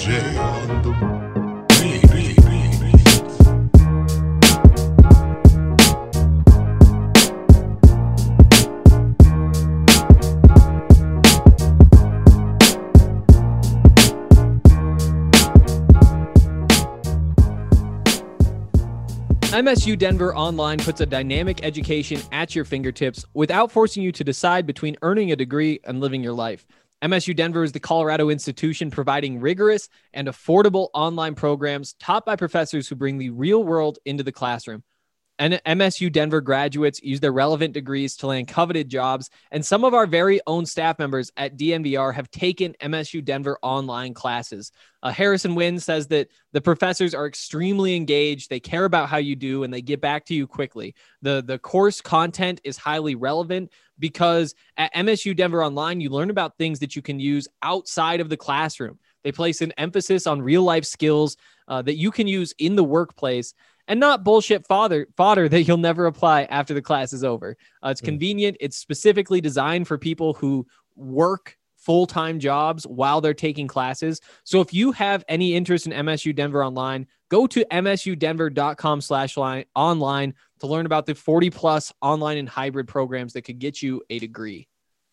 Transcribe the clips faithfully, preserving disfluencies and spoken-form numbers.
J on the beat. beat, beat, beat. M S U Denver Online puts a dynamic education at your fingertips without forcing you to decide between earning a degree and living your life. M S U Denver is the Colorado institution providing rigorous and affordable online programs taught by professors who bring the real world into the classroom. And M S U Denver graduates use their relevant degrees to land coveted jobs, and some of our very own staff members at D N V R have taken M S U Denver online classes. Uh, Harrison Wynn says that the professors are extremely engaged, they care about how you do, and they get back to you quickly. The, the course content is highly relevant because at M S U Denver Online, you learn about things that you can use outside of the classroom. They place an emphasis on real-life skills uh, that you can use in the workplace, and not bullshit fodder, fodder that you'll never apply after the class is over. Uh, it's convenient. It's specifically designed for people who work full-time jobs while they're taking classes. So if you have any interest in M S U Denver Online, go to msudenver.com slash online to learn about the forty plus online and hybrid programs that could get you a degree.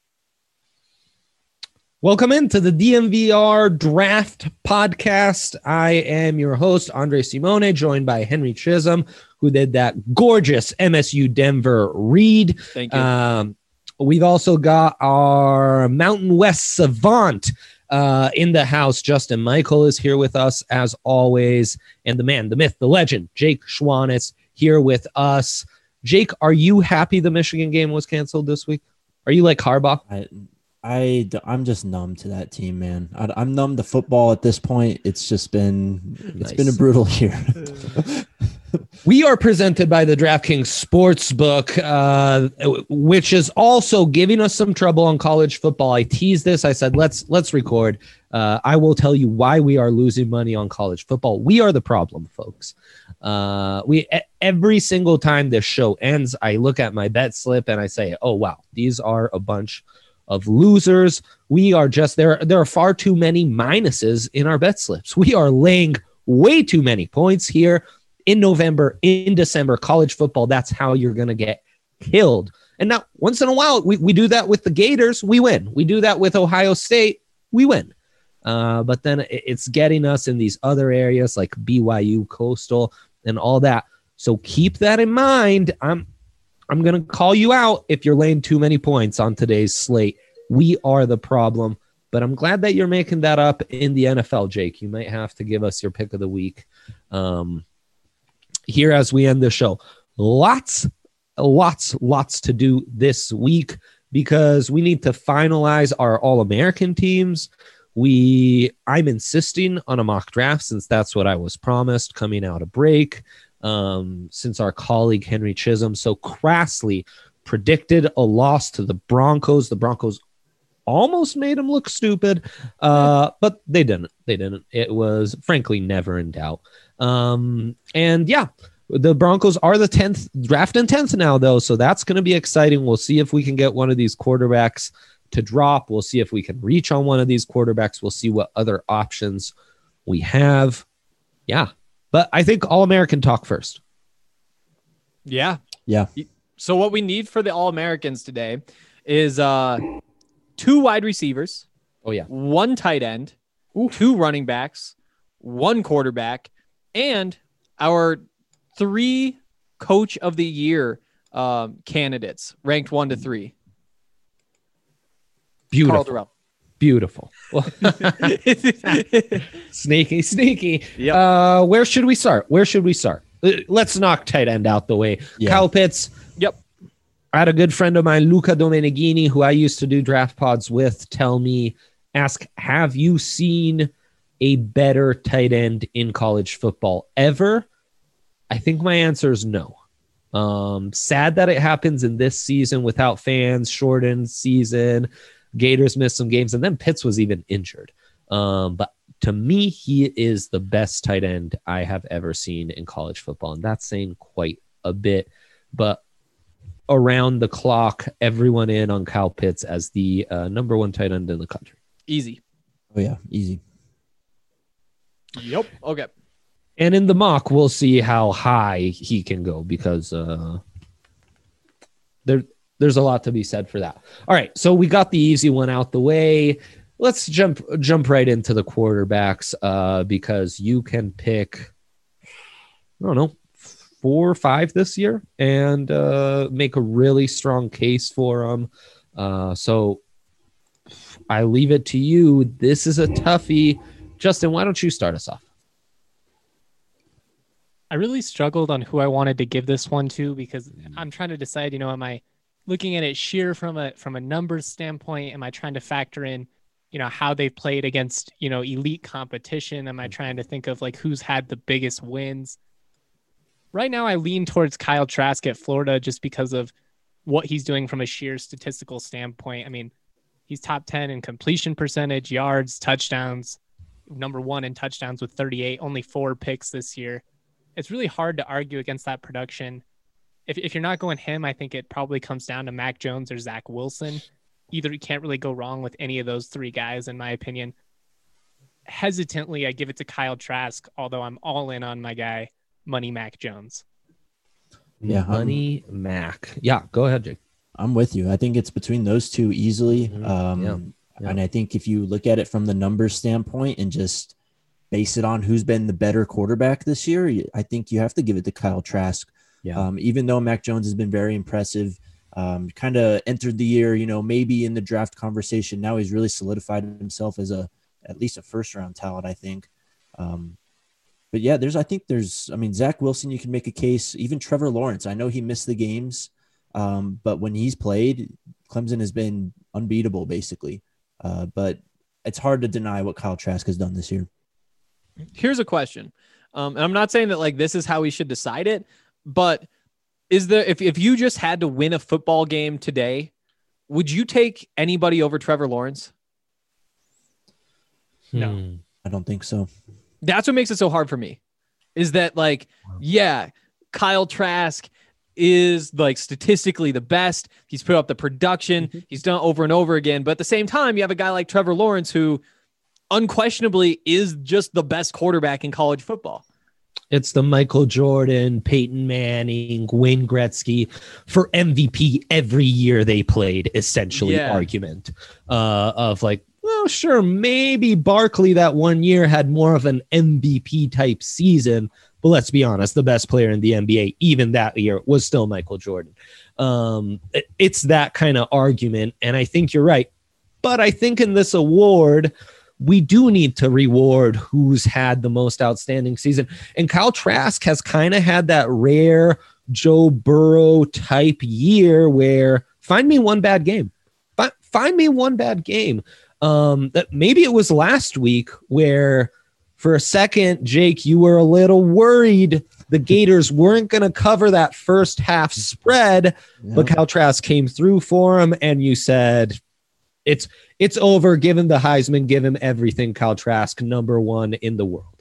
Welcome into the D N V R Draft Podcast. I am your host, Andre Simone, joined by Henry Chisholm, who did that gorgeous M S U Denver read. Thank you. Um, we've also got our Mountain West savant uh, in the house. Justin Michael is here with us, as always. And the man, the myth, the legend, Jake Schwanitz, here with us. Jake, are you happy the Michigan game was canceled this week? Are you like Harbaugh? I, I, I'm just numb to that team, man. I, I'm numb to football at this point. It's just been, it's Nice. been a brutal year. We are presented by the DraftKings Sportsbook, uh, which is also giving us some trouble on college football. I teased this. I said, let's let's record. Uh, I will tell you why we are losing money on college football. We are the problem, folks. Uh, we every single time this show ends, I look at my bet slip and I say, oh, wow, these are a bunch of losers. We are just there. There are far too many minuses in our bet slips. We are laying way too many points here. In November, in December, college football, that's how you're going to get killed. And now, once in a while, we, we do that with the Gators, we win. We do that with Ohio State, we win. Uh, but then it's getting us in these other areas like B Y U, Coastal, and all that. So keep that in mind. I'm I'm going to call you out if you're laying too many points on today's slate. We are the problem. But I'm glad that you're making that up in the N F L, Jake. You might have to give us your pick of the week. Um Here as we end the show, lots, lots, lots to do this week because we need to finalize our All-American teams. We, I'm insisting on a mock draft since that's what I was promised coming out of break. Um, since our colleague Henry Chisholm so crassly predicted a loss to the Broncos, the Broncos almost made him look stupid, uh, but they didn't. They didn't. It was frankly never in doubt. Um, and yeah, the Broncos are the tenth drafting tenth now though. So that's going to be exciting. We'll see if we can get one of these quarterbacks to drop. We'll see if we can reach on one of these quarterbacks. We'll see what other options we have. Yeah. But I think All-American talk first. Yeah. Yeah. So what we need for the All-Americans today is uh, two wide receivers. Oh yeah. One tight end, Ooh. two running backs, one quarterback, and our three coach of the year um, candidates ranked one to three. Beautiful. Beautiful. Sneaky, sneaky. Yep. Uh, where should we start? Where should we start? Let's knock tight end out the way. Yeah. Kyle Pitts. Yep. I had a good friend of mine, Luca Domeneghini, who I used to do draft pods with, tell me, ask, have you seen a better tight end in college football ever? I think my answer is no. Um, sad that it happens in this season without fans, shortened season. Gators missed some games, and then Pitts was even injured. Um, but to me, he is the best tight end I have ever seen in college football, and that's saying quite a bit. But around the clock, everyone in on Kyle Pitts as the uh, number one tight end in the country. Easy. Oh, yeah. Easy. Yep. Okay. And in the mock, we'll see how high he can go because uh, there, there's a lot to be said for that. All right, so we got the easy one out the way. Let's jump jump right into the quarterbacks uh, because you can pick, I don't know, four or five this year and uh, make a really strong case for them. Uh, so I leave it to you. This is a toughie. Justin, why don't you start us off? I really struggled on who I wanted to give this one to because I'm trying to decide, you know, am I looking at it sheer from a from a numbers standpoint? Am I trying to factor in, you know, how they've played against, you know, elite competition? Am I trying to think of like who's had the biggest wins? Right now, I lean towards Kyle Trask at Florida just because of what he's doing from a sheer statistical standpoint. I mean, he's top ten in completion percentage, yards, touchdowns, number one in touchdowns with thirty-eight, only four picks this year. It's really hard to argue against that production. If if you're not going him, I think it probably comes down to Mac Jones or Zach Wilson. Either you can't really go wrong with any of those three guys, in my opinion. Hesitantly, I give it to Kyle Trask, although I'm all in on my guy, Money Mac Jones. Yeah, Money I'm, Mac. Yeah, go ahead, Jake. I'm with you. I think it's between those two easily. Mhm. Um, Yeah. Yeah. And I think if you look at it from the numbers standpoint and just base it on who's been the better quarterback this year, I think you have to give it to Kyle Trask. Yeah. Um, even though Mac Jones has been very impressive, um, kind of entered the year, you know, maybe in the draft conversation. Now he's really solidified himself as a at least a first round talent, I think. Um, but yeah, there's I think there's I mean Zach Wilson, you can make a case. Even Trevor Lawrence, I know he missed the games, um, but when he's played, Clemson has been unbeatable basically. Uh, but it's hard to deny what Kyle Trask has done this year. Here's a question. Um, and I'm not saying that like this is how we should decide it, but is there, if, if you just had to win a football game today, would you take anybody over Trevor Lawrence? No. Hmm. I don't think so. That's what makes it so hard for me is that like, yeah, Kyle Trask is like statistically the best. He's put up the production. Mm-hmm. He's done over and over again. But at the same time, you have a guy like Trevor Lawrence who unquestionably is just the best quarterback in college football. It's the Michael Jordan, Peyton Manning, Wayne Gretzky for M V P every year they played, essentially, Yeah. argument uh, of like, well, sure, maybe Barkley that one year had more of an M V P type season, but let's be honest, the best player in the N B A, even that year, was still Michael Jordan. Um, it- it's that kind of argument, and I think you're right. But I think in this award, we do need to reward who's had the most outstanding season. And Kyle Trask has kind of had that rare Joe Burrow type year where find me one bad game. Fi- Find me one bad game. Um, that maybe it was last week where for a second, Jake, you were a little worried the Gators weren't going to cover that first half spread, Yeah. but Kyle Trask came through for him, and you said it's it's over. Give him the Heisman. Give him everything. Kyle Trask, number one in the world.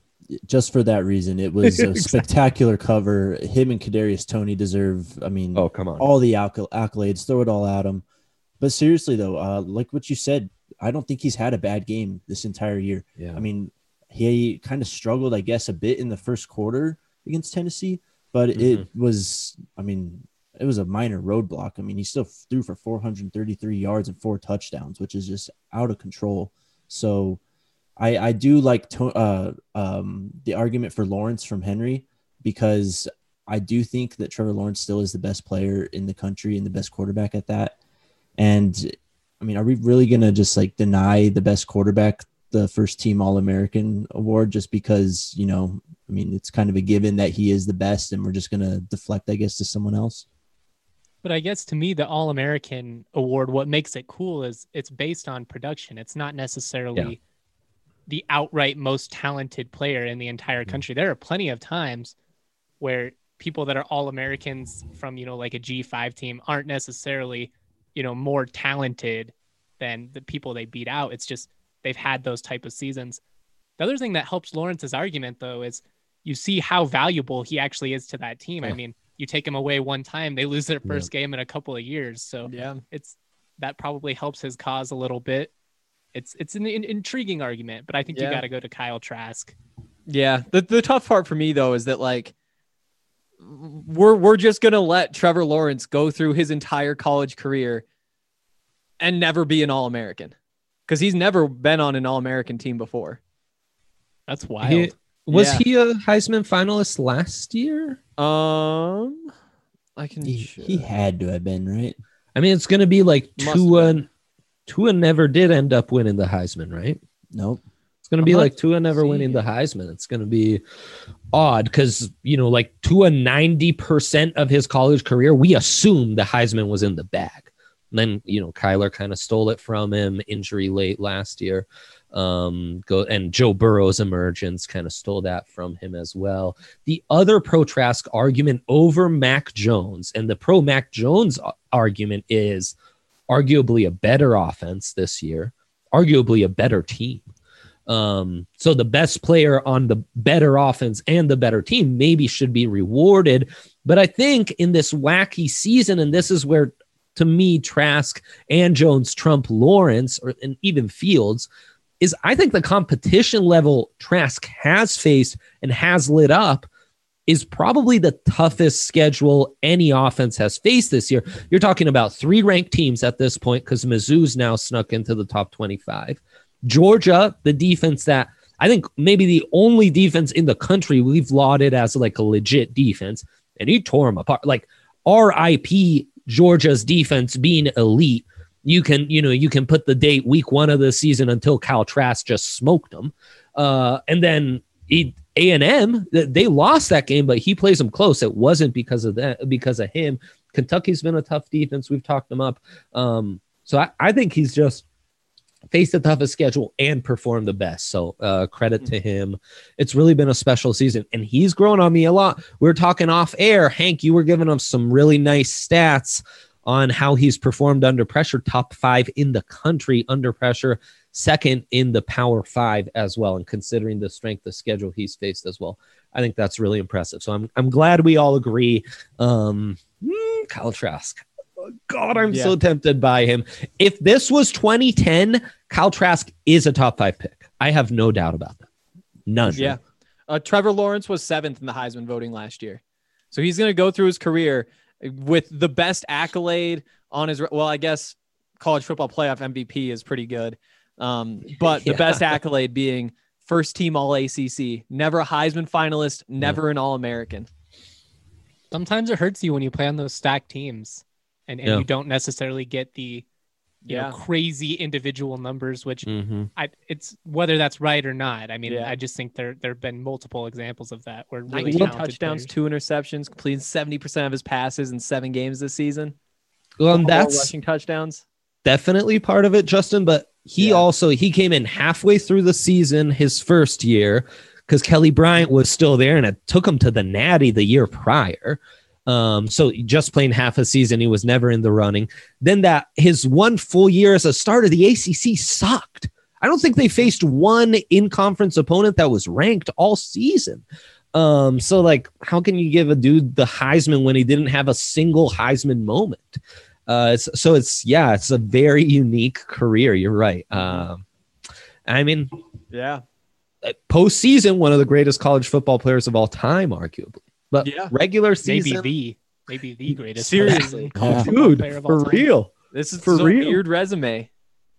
Just for that reason, it was a Exactly. spectacular cover. Him and Kadarius Toney deserve, I mean, Oh, come on. all the acc- accolades. Throw it all at him. But seriously, though, uh, like what you said, I don't think he's had a bad game this entire year. Yeah. I mean, he kind of struggled, I guess, a bit in the first quarter against Tennessee, but it was, I mean, it was a minor roadblock. I mean, he still threw for four hundred thirty-three yards and four touchdowns, which is just out of control. So I, I do like to, uh, um, the argument for Lawrence from Henry, because I do think that Trevor Lawrence still is the best player in the country and the best quarterback at that. And I mean, are we really going to just like deny the best quarterback the first team All-American award just because, you know, I mean, it's kind of a given that he is the best and we're just going to deflect, I guess, to someone else? But I guess to me, the All-American award, what makes it cool is it's based on production. It's not necessarily Yeah. the outright most talented player in the entire country. There are plenty of times where people that are All-Americans from, you know, like a G five team aren't necessarily, you know, more talented than the people they beat out. It's just they've had those type of seasons. The other thing that helps Lawrence's argument, though, is you see how valuable he actually is to that team. I Yeah. mean, you take him away one time, they lose their first game in a couple of years. So Yeah. it's that probably helps his cause a little bit. it's it's an, in- intriguing argument, but I think Yeah. you got to go to Kyle Trask. Yeah. The the tough part for me though is that like we're we're just gonna let Trevor Lawrence go through his entire college career and never be an All-American because he's never been on an All-American team before. That's wild. He, was Yeah. he a Heisman finalist last year? Um, I can. He, he had to have been, right? I mean, it's going to be like Must have Tua. Tua never did end up winning the Heisman, right? Nope. It's going to I'm be not like Tua never seeing winning the it. Heisman. It's going to be odd because, you know, like Tua, ninety percent of his college career, we assume the Heisman was in the bag. And then, you know, Kyler kind of stole it from him, injury late last year. Um, go and Joe Burrow's emergence kind of stole that from him as well. The other pro Trask argument over Mac Jones, and the pro Mac Jones a- argument is arguably a better offense this year, arguably a better team. Um, so the best player on the better offense and the better team maybe should be rewarded. But I think in this wacky season, and this is where, to me, Trask and Jones trump Lawrence or and even Fields, is I think the competition level Trask has faced and has lit up is probably the toughest schedule any offense has faced this year. You're talking about three ranked teams at this point because Mizzou's now snuck into the top twenty-five. Georgia, the defense that I think maybe the only defense in the country we've lauded as like a legit defense, and he tore them apart. Like R I P Georgia's defense being elite. You can, you know, you can put the date week one of the season until Kyle Trask just smoked them. Uh, and then he, A and M, they lost that game, but he plays them close. It wasn't because of that, because of him. Kentucky's been a tough defense. We've talked them up. Um, so I, I think he's just faced the toughest schedule and performed the best. So uh, credit to him. It's really been a special season, and he's grown on me a lot. We were talking off air. Hank, you were giving him some really nice stats on how he's performed under pressure, top five in the country under pressure, second in the Power Five as well. And considering the strength of schedule he's faced as well, I think that's really impressive. So I'm I'm glad we all agree. Um, mm, Kyle Trask. Oh, God, I'm Yeah. so tempted by him. If this was twenty ten, Kyle Trask is a top five pick. I have no doubt about that. None. Yeah. Uh, Trevor Lawrence was seventh in the Heisman voting last year. So he's going to go through his career with the best accolade on his, well, I guess college football playoff M V P is pretty good. Um, but the Yeah. best accolade being first team all A C C, never a Heisman finalist, never an All-American. Sometimes it hurts you when you play on those stacked teams and, and Yeah. you don't necessarily get the you Yeah. know, crazy individual numbers, which Mm-hmm. I it's whether that's right or not. I mean, Yeah. I just think there there have been multiple examples of that where really nineteen talented touchdowns, players- two interceptions, completing seventy percent of his passes in seven games this season. Well, and Four that's rushing touchdowns. definitely part of it, Justin, but he Yeah. also he came in halfway through the season his first year because Kelly Bryant was still there, and it took him to the Natty the year prior. Um, so just playing half a season, he was never in the running. Then that his one full year as a starter, the A C C sucked. I don't think they faced one in-conference opponent that was ranked all season. Um, so like, how can you give a dude the Heisman when he didn't have a single Heisman moment? Uh, it's, so it's, yeah, it's a very unique career. You're right. Um, I mean, Yeah. postseason, one of the greatest college football players of all time, arguably. But Yeah. regular maybe season, the maybe the greatest Seriously. college football dude, player of all for time. real. This is For a real. weird resume.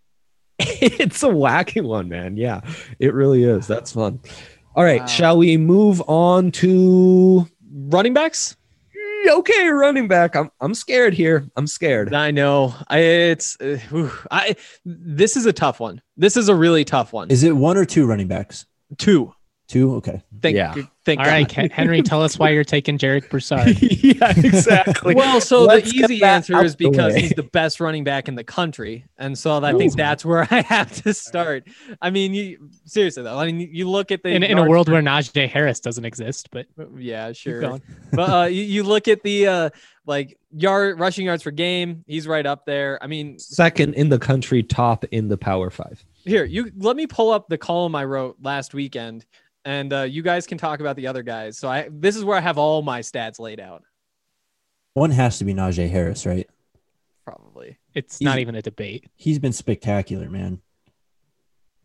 It's a wacky one, man. Yeah, it really is. That's fun. All right, Wow. shall we move on to Running backs? okay, running back? I'm I'm scared here. I'm scared. I know. I, it's uh, whew. I. This is a tough one. This is a really tough one. Is it one or two running backs? Two. Two? Okay. Thank, Yeah. Thank All God. right, Ken- Henry, tell us why you're taking Jarek Broussard. Yeah, exactly. Well, so Let's the get easy that answer out is the because way. he's the best running back in the country, and so I think Ooh. that's where I have to start. I mean, you seriously though. I mean, you look at the in, in a yards world per- where Najee Harris doesn't exist, but yeah, keep sure. going. But uh, you, you look at the uh, like yard rushing yards per game. He's right up there. I mean, Second in the country, top in the Power Five. here you let me pull up the column I wrote last weekend, and uh, you guys can talk about the other guys. So I this is where I have all my stats laid out. One has to be Najee Harris, right? Probably. It's He's- not even a debate. He's been spectacular, man.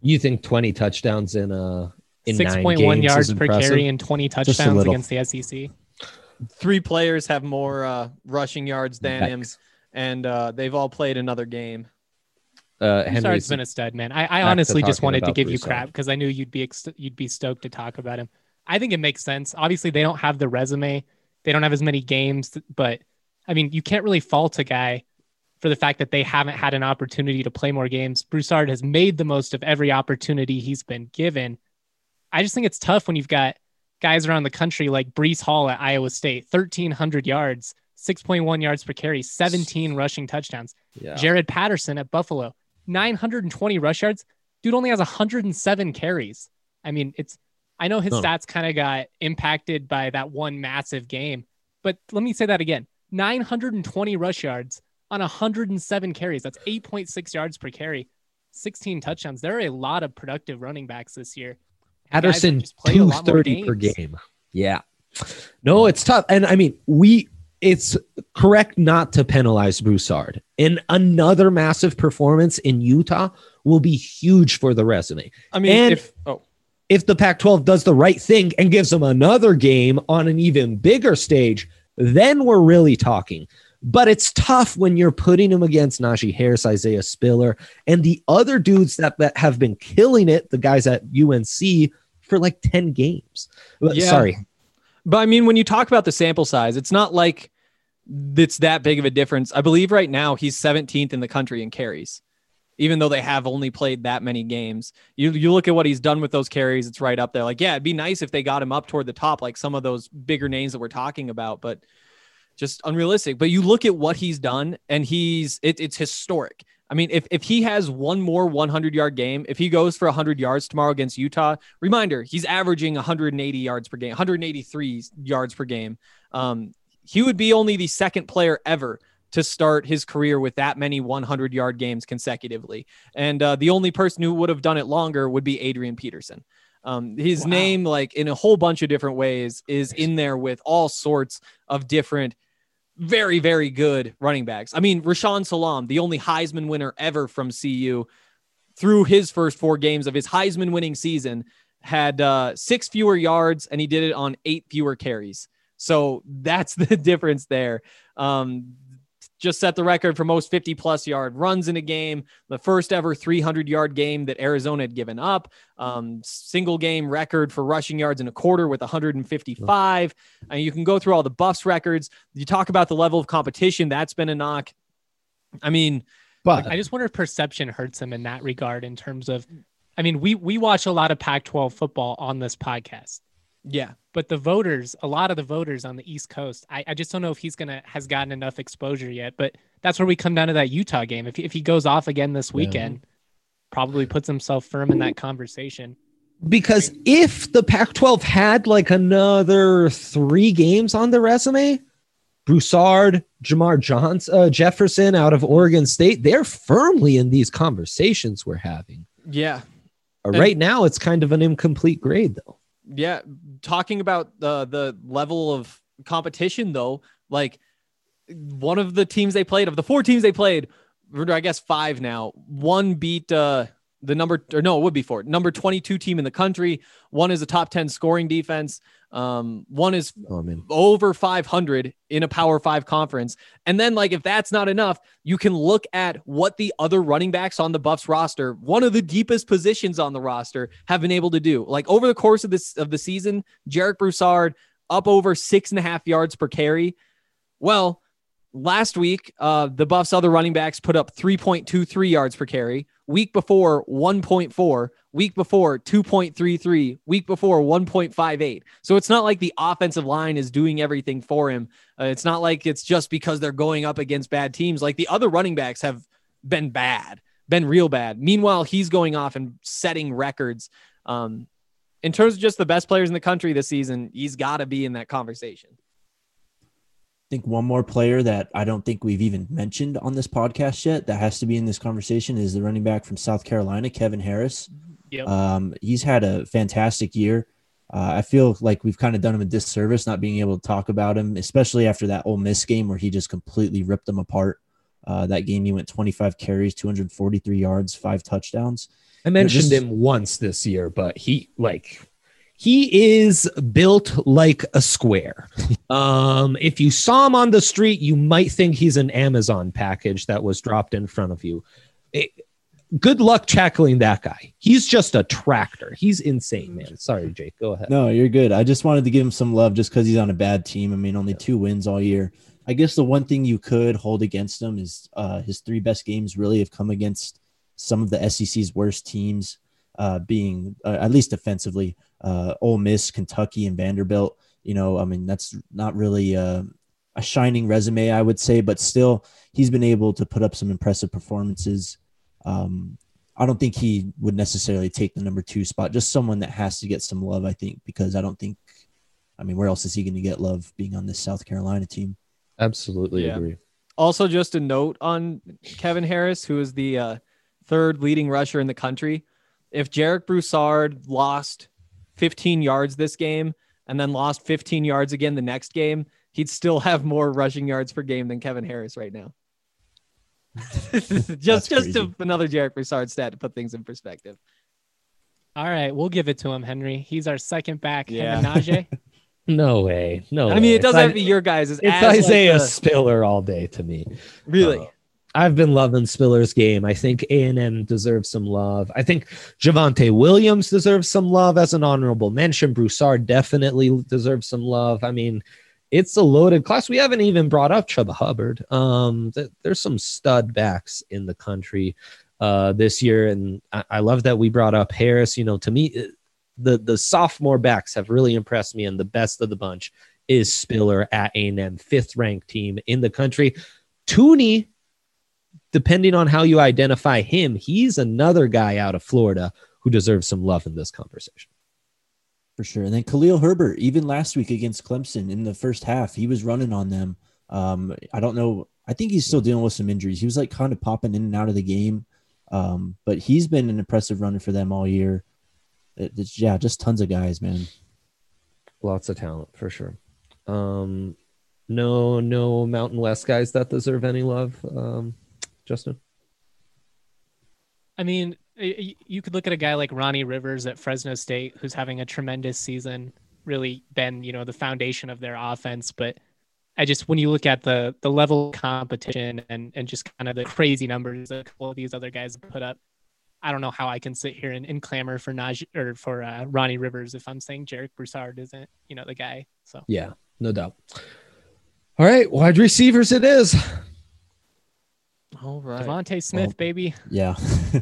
You think twenty touchdowns in uh in Six nine point one games yards is per impressive? carry and twenty touchdowns little. against the S E C. Three players have more uh, rushing yards than him, Yikes. and uh, they've all played another game. Uh, Broussard's Henry's been a stud, man. I, I to honestly just talking wanted to about give you Broussard. crap because I knew you'd be ex- you'd be stoked to talk about him. I think it makes sense. Obviously, they don't have the resume, they don't have as many games, but I mean, you can't really fault a guy for the fact that they haven't had an opportunity to play more games. Broussard has made the most of every opportunity he's been given. I just think it's tough when you've got guys around the country like Brees Hall at Iowa State, thirteen hundred yards, six point one yards per carry, seventeen rushing touchdowns. yeah. Jared Patterson at Buffalo, nine hundred twenty rush yards. Dude only has one hundred seven carries. I mean, it's, I know his Huh. stats kind of got impacted by that one massive game, but let me say that again. nine hundred twenty rush yards on one hundred seven carries. That's eight point six yards per carry, sixteen touchdowns. There are a lot of productive running backs this year. Guys that Patterson just play a two lot more thirty per games. game. Yeah. No, it's tough. And I mean, we it's correct not to penalize Broussard. And another massive performance in Utah will be huge for the resume. I mean, And- if oh, If the Pac twelve does the right thing and gives them another game on an even bigger stage, then we're really talking. But it's tough when you're putting him against Najee Harris, Isaiah Spiller, and the other dudes that, that have been killing it, the guys at U N C, for like ten games. But- Yeah. Sorry. But I mean, when you talk about the sample size, it's not like it's that big of a difference. I believe right now he's seventeenth in the country in carries, even though they have only played that many games. You you look at what he's done with those carries, it's right up there. Like, yeah, it'd be nice if they got him up toward the top, like some of those bigger names that we're talking about, but just unrealistic. But you look at what he's done, and he's it, it's historic. I mean, if, if he has one more hundred-yard game, if he goes for one hundred yards tomorrow against Utah, reminder, he's averaging one hundred eighty yards per game, one hundred eighty-three yards per game. Um, he would be only the second player ever to start his career with that many hundred-yard games consecutively. And uh, the only person who would have done it longer would be Adrian Peterson. Um, his Wow. name, like in a whole bunch of different ways, is in there with all sorts of different very, very good running backs. I mean, Rashawn Salam, the only Heisman winner ever from C U, through his first four games of his Heisman winning season, had uh, six fewer yards, and he did it on eight fewer carries. So that's the difference there. Um, just set the record for most fifty plus yard runs in a game, the first ever three hundred yard game that Arizona had given up, um, single game record for rushing yards in a quarter with one hundred fifty-five. And you can go through all the Buffs records. You talk about the level of competition. That's been a knock. I mean, But I just wonder if perception hurts him in that regard in terms of, I mean, we we watch a lot of Pac twelve football on this podcast, yeah, but the voters, a lot of the voters on the East Coast, I, I just don't know if he's gonna has gotten enough exposure yet. But that's where we come down to that Utah game. If if he goes off again this weekend, probably puts himself firm in that conversation. because if the Pac twelve had like another three games on the resume, Broussard, Jamar Johnson, uh, Jefferson out of Oregon State, they're firmly in these conversations we're having. yeah. Uh, right now, it's kind of an incomplete grade, though. Yeah, talking about the the level of competition, though, like one of the teams they played, of the four teams they played, or I guess five now, one beat uh, the number, or no, it would be four, number twenty-two team in the country. One is a top ten scoring defense. Um, one is Oh, I mean, over five hundred in a Power Five conference. And then, like, if that's not enough, you can look at what the other running backs on the Buffs roster, one of the deepest positions on the roster, have been able to do. Like, over the course of this of the season, Jarek Broussard up over six and a half yards per carry. Well, last week, uh, the Buffs' other running backs put up three point two three yards per carry. Week before, one point four. Week before, two point three three. Week before, one point five eight. So it's not like the offensive line is doing everything for him. Uh, it's not like it's just because they're going up against bad teams. Like, the other running backs have been bad, been real bad. Meanwhile, he's going off and setting records. Um, in terms of just the best players in the country this season, he's got to be in that conversation. I think one more player that I don't think we've even mentioned on this podcast yet that has to be in this conversation is the running back from South Carolina, Kevin Harris. Yep. Um, he's had a fantastic year. Uh, I feel like we've kind of done him a disservice not being able to talk about him, especially after that Ole Miss game where he just completely ripped them apart. Uh, that game, he went twenty-five carries, two hundred forty-three yards, five touchdowns. I mentioned just- him once this year, but he like he is built like a square. Um, if you saw him on the street, you might think he's an Amazon package that was dropped in front of you. It, good luck tackling that guy. He's just a tractor. He's insane, man. Sorry, Jake. Go ahead. No, you're good. I just wanted to give him some love just because he's on a bad team. I mean, only two wins all year. I guess the one thing you could hold against him is uh, his three best games really have come against some of the S E C's worst teams, uh, being uh, at least defensively, uh, Ole Miss, Kentucky, and Vanderbilt. You know, I mean, that's not really uh, a shining resume, I would say, but still, he's been able to put up some impressive performances. Um, I don't think he would necessarily take the number two spot, just someone that has to get some love, I think, because I don't think, I mean, where else is he going to get love being on this South Carolina team? Absolutely Yeah. agree. Also, just a note on Kevin Harris, who is the uh, third leading rusher in the country. If Jarek Broussard lost fifteen yards this game and then lost fifteen yards again the next game, he'd still have more rushing yards per game than Kevin Harris right now. just just to, another Jarek Broussard stat to put things in perspective. All right, we'll give it to him, Henry. He's our second back. Yeah. Him and Najee. No way. No I way. mean, it doesn't It's have to be your guys. It's, It's as like Isaiah the- Spiller all day to me. really. Uh, I've been loving Spiller's game. I think A and M deserves some love. I think Javonte Williams deserves some love as an honorable mention. Broussard definitely deserves some love. I mean, it's a loaded class. We haven't even brought up Chuba Hubbard. Um, th- there's some stud backs in the country uh, this year, and I-, I love that we brought up Harris. You know, to me, it- the the sophomore backs have really impressed me, and the best of the bunch is Spiller at A and M, fifth ranked team in the country. Tooney, depending on how you identify him, he's another guy out of Florida who deserves some love in this conversation. For sure. And then Khalil Herbert, even last week against Clemson in the first half, he was running on them. Um, I don't know. I think he's still dealing with some injuries. He was like kind of popping in and out of the game. Um, but he's been an impressive runner for them all year. It, it's, yeah, just tons of guys, man. Lots of talent for sure. Um, no, no Mountain West guys that deserve any love. Um, Justin? I mean, y- y- you could look at a guy like Ronnie Rivers at Fresno State, who's having a tremendous season, really been, you know, the foundation of their offense. But I just, when you look at the the level of competition and, and just kind of the crazy numbers that a couple of these other guys put up, I don't know how I can sit here and, and clamor for Najee or for uh, Ronnie Rivers if I'm saying Jarek Broussard isn't, you know, the guy. So Yeah, no doubt. All right, wide receivers it is. All right. Devontae Smith, Well, baby. Yeah.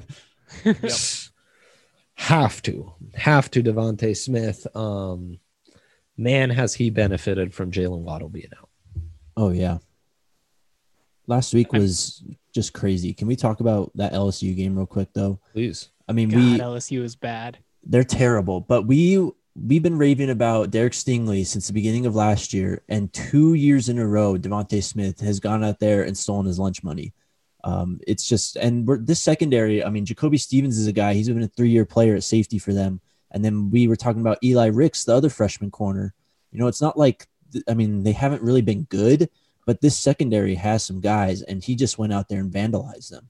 Have to. Have to Devontae Smith. Um, man, has he benefited from Jalen Waddle being out. Oh, yeah. Last week was just crazy. Can we talk about that L S U game real quick, though? Please. I mean, God, we L S U is bad. they're terrible, but we we've been raving about Derek Stingley since the beginning of last year, and two years in a row, Devontae Smith has gone out there and stolen his lunch money. Um, it's just, and we're, this secondary, I mean, Jacoby Stevens is a guy, he's been a three-year player at safety for them. And then we were talking about Eli Ricks, the other freshman corner. You know, it's not like, I mean, they haven't really been good, but this secondary has some guys, and he just went out there and vandalized them.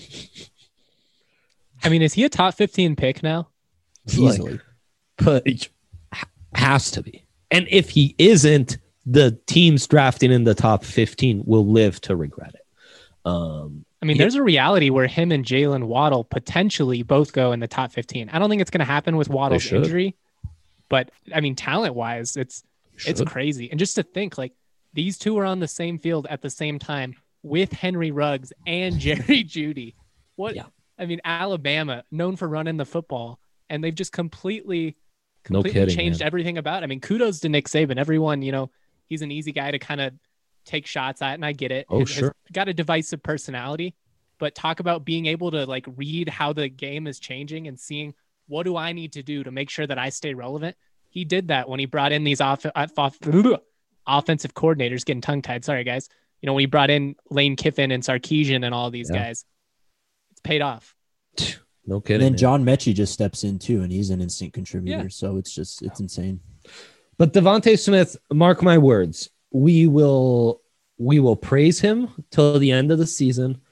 I mean, is he a top fifteen pick now? Easily. But has to be. And if he isn't, the teams drafting in the top fifteen will live to regret it. Um, I mean, Yeah. there's a reality where him and Jalen Waddle potentially both go in the top fifteen. I don't think it's going to happen with Waddle's should. injury, but I mean, talent wise, it's it's should. crazy. And just to think, like these two are on the same field at the same time with Henry Ruggs and Jerry Jeudy. What? Yeah. I mean, Alabama known for running the football, and they've just completely, No completely kidding, changed man. everything about it. I mean, kudos to Nick Saban. Everyone, you know, he's an easy guy to kind of take shots at, and I get it. Oh, Has- sure. has got a divisive personality, but talk about being able to like read how the game is changing and seeing what do I need to do to make sure that I stay relevant. He did that when he brought in these off, off, off offensive coordinators. Getting tongue tied, sorry guys. You know, when he brought in Lane Kiffin and Sarkisian and all these Yeah. guys, it's paid off. No And kidding. then man. John Mechie just steps in too, and he's an instant contributor. Yeah. So it's just, it's insane. But Devontae Smith, mark my words, we will we will praise him till the end of the season.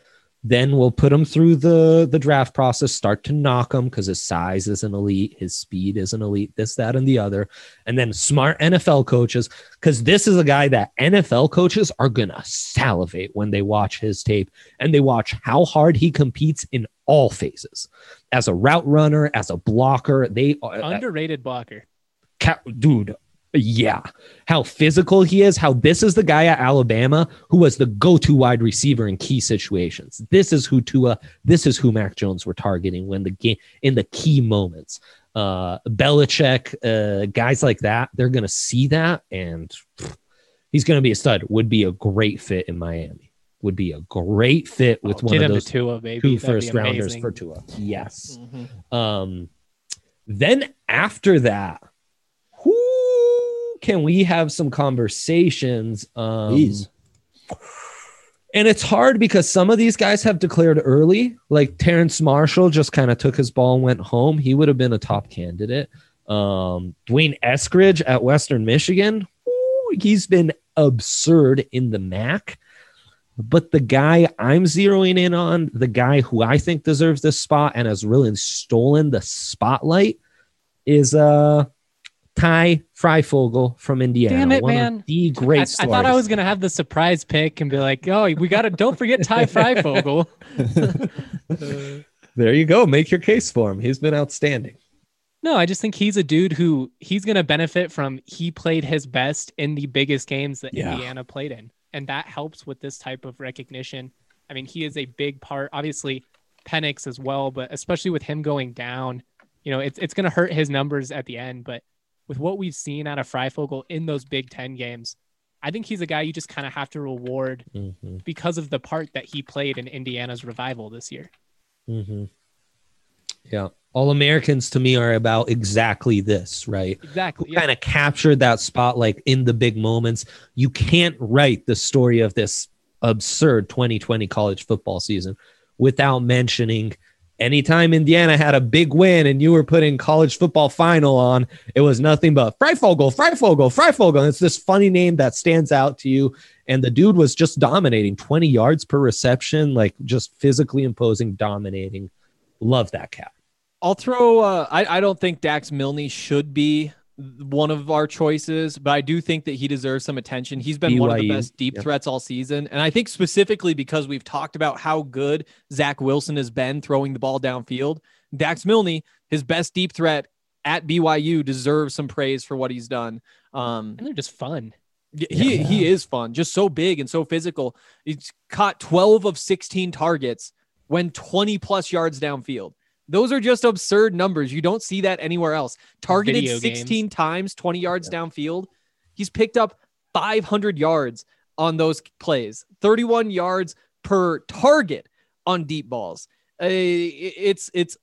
Then we'll put him through the, the draft process, start to knock him because his size isn't elite, his speed isn't elite, this, that, and the other. And then smart N F L coaches, because this is a guy that N F L coaches are going to salivate when they watch his tape and they watch how hard he competes in all phases. As a route runner, as a blocker, they are Underrated blocker. dude. Yeah, how physical he is, how this is the guy at Alabama who was the go-to wide receiver in key situations. This is who Tua, this is who Mac Jones were targeting when the game in the key moments. Uh, Belichick, uh, guys like that, they're going to see that and pff, he's going to be a stud. Would be a great fit in Miami. Would be a great fit with Oh, one get of him those to Tua, baby. two That'd be first rounders amazing. for Tua. Yes. Mhm. Um, then after that, who can we have some conversations? Um, Please. and it's hard because some of these guys have declared early. Like Terrence Marshall just kind of took his ball and went home. He would have been a top candidate. Um, Dwayne Eskridge at Western Michigan. Ooh, he's been absurd in the M A C. But the guy I'm zeroing in on, the guy who I think deserves this spot and has really stolen the spotlight is uh Ty Freifogel from Indiana. Damn it, One man. of the great I, I stories. thought I was gonna have the surprise pick and be like, "Oh, we gotta don't forget Ty Freifogel." There you go. Make your case for him. He's been outstanding. No, I just think he's a dude who he's gonna benefit from. He played his best in the biggest games that Yeah. Indiana played in, and that helps with this type of recognition. I mean, he is a big part. Obviously, Penix as well, but especially with him going down, you know, it's it's gonna hurt his numbers at the end, but. With what we've seen out of Freifogel in those Big Ten games, I think he's a guy you just kind of have to reward Mm-hmm. because of the part that he played in Indiana's revival this year. Mm-hmm. Yeah. All Americans to me are about exactly this, right? Exactly. Who Yeah. kind of captured that spotlight in the big moments. You can't write the story of this absurd twenty twenty college football season without mentioning anytime Indiana had a big win and you were putting college football final on, it was nothing but Freifogel, Freifogel, Freifogel. And it's this funny name that stands out to you. And the dude was just dominating twenty yards per reception, like just physically imposing, dominating. Love that cat. I'll throw. Uh, I I don't think Dax Milne should be one of our choices, but I do think that he deserves some attention. He's been one of the B Y U, best deep yeah. threats all season, and I think specifically because we've talked about how good Zach Wilson has been throwing the ball downfield. Dax Milne, his best deep threat at B Y U, deserves some praise for what he's done. Um, And they're just fun. Y- He Yeah. he is fun, just so big and so physical. He's caught twelve of sixteen targets when twenty plus yards downfield. Those are just absurd numbers. You don't see that anywhere else. Targeted Video games. sixteen times, twenty yards downfield. He's picked up five hundred yards on those plays, thirty-one yards per target on deep balls. Uh, it's it's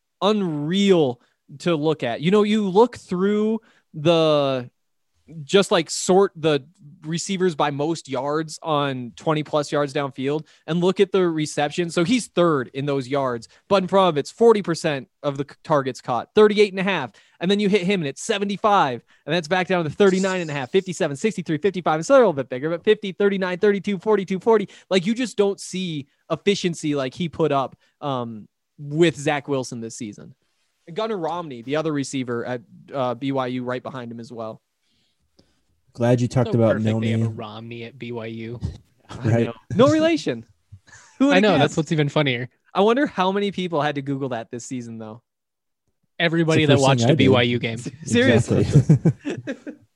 unreal to look at. You know, you look through the just like sort the receivers by most yards on twenty plus yards downfield and look at the reception. So he's third in those yards, but in front of it's forty percent of the targets caught, thirty-eight and a half. And then you hit him and it's seventy-five. And that's back down to thirty-nine and a half, fifty-seven, sixty-three, fifty-five. It's a little bit bigger, but fifty, thirty-nine, thirty-two, forty-two, forty. Like you just don't see efficiency like he put up um, with Zach Wilson this season. And Gunnar Romney, the other receiver at uh, B Y U, right behind him as well. Glad you talked So about perfect they have a Milne. Romney at B Y U. Right. No relation. Who I would've know. guessed? That's what's even funnier. I wonder how many people had to Google that this season, though. Everybody It's the that first watched thing a I did. B Y U game. Seriously. Exactly.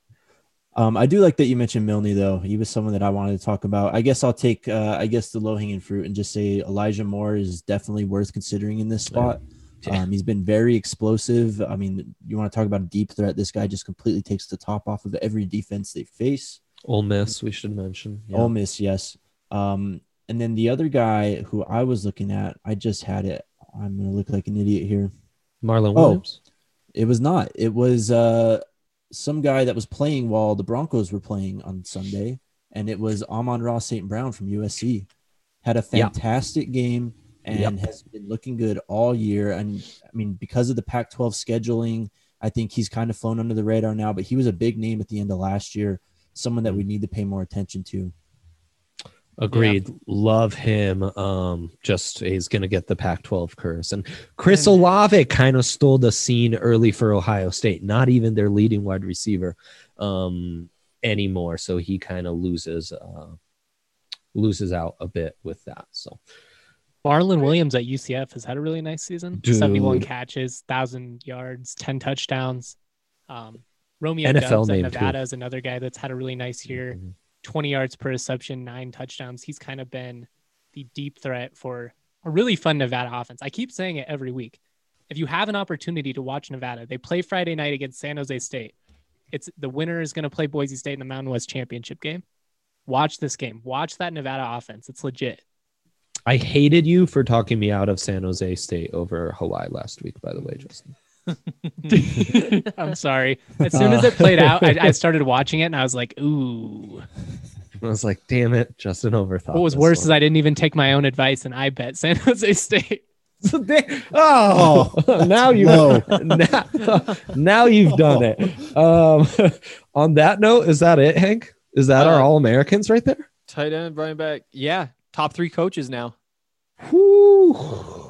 um, I do like that you mentioned Milne, though. He was someone that I wanted to talk about. I guess I'll take, uh, I guess, the low hanging fruit and just say Elijah Moore is definitely worth considering in this spot. Yeah. Um, he's been very explosive. I mean, you want to talk about a deep threat? This guy just completely takes the top off of every defense they face. Ole Miss, we should mention. Yeah. Ole Miss, yes. Um, and then the other guy who I was looking at, I just had it. I'm gonna look like an idiot here. Marlon Oh. Williams. It was not. It was uh, some guy that was playing while the Broncos were playing on Sunday, and it was Amon-Ra Saint Brown from U S C. Had a Yeah. fantastic game and has been looking good all year. And I mean, because of the Pac twelve scheduling, I think he's kind of flown under the radar now. But he was a big name at the end of last year, someone that we need to pay more attention to. Agreed. Love him. Um, just he's gonna get the Pac twelve curse. And Chris Olave kind of stole the scene early for Ohio State. Not even their leading wide receiver um, anymore. So he kind of loses uh, loses out a bit with that. So Marlon Williams at U C F has had a really nice season. Dude. seventy-one catches, one thousand yards, ten touchdowns. Um, Romeo N F L Doubs at name, Nevada too. is another guy that's had a really nice year. Mhm. twenty yards per reception, nine touchdowns. He's kind of been the deep threat for a really fun Nevada offense. I keep saying it every week. If you have an opportunity to watch Nevada, they play Friday night against San Jose State. It's the winner is going to play Boise State in the Mountain West Championship game. Watch this game. Watch that Nevada offense. It's legit. I hated you for talking me out of San Jose State over Hawaii last week, by the way, Justin. I'm sorry. As soon as it played out, I, I started watching it and I was like, ooh. I was like, damn it, Justin overthought. What was this worse one. is I didn't even take my own advice and I bet San Jose State. So they- oh, now you No. now, now you've done it. Um, on that note, is that it, Hank? Is that our Uh, All Americans right there? Tight end, Brian Beck. Yeah, top three coaches now. Whew.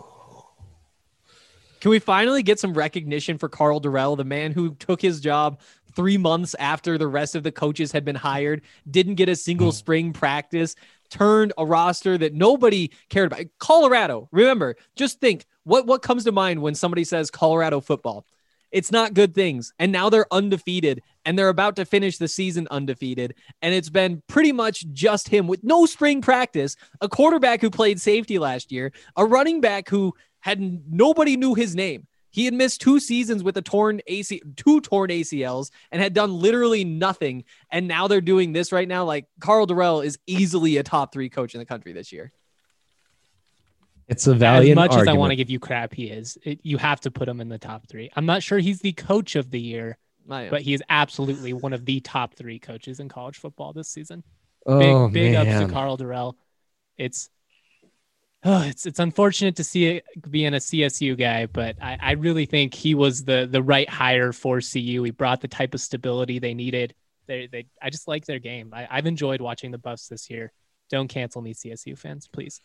Can we finally get some recognition for Carl Durrell, the man who took his job three months after the rest of the coaches had been hired, didn't get a single spring practice, turned a roster that nobody cared about. Colorado, remember, just think, what, what comes to mind when somebody says Colorado football? It's not good things. And now they're undefeated, and they're about to finish the season undefeated. And it's been pretty much just him with no spring practice, a quarterback who played safety last year, a running back who had nobody knew his name. He had missed two seasons with a torn A C, two torn A C Ls, and had done literally nothing. And now they're doing this right now. Like, Carl Durrell is easily a top three coach in the country this year. It's a As valiant much as I argument. want to give you crap, he is. It, you have to put him in the top three. I'm not sure he's the coach of the year, I am. but he is absolutely one of the top three coaches in college football this season. Big, oh, big ups man. to Carl Durrell. It's oh, it's it's unfortunate to see it being a C S U guy, but I, I really think he was the the right hire for C U. He brought the type of stability they needed. They they I just like their game. I, I've enjoyed watching the Buffs this year. Don't cancel me, C S U fans, please.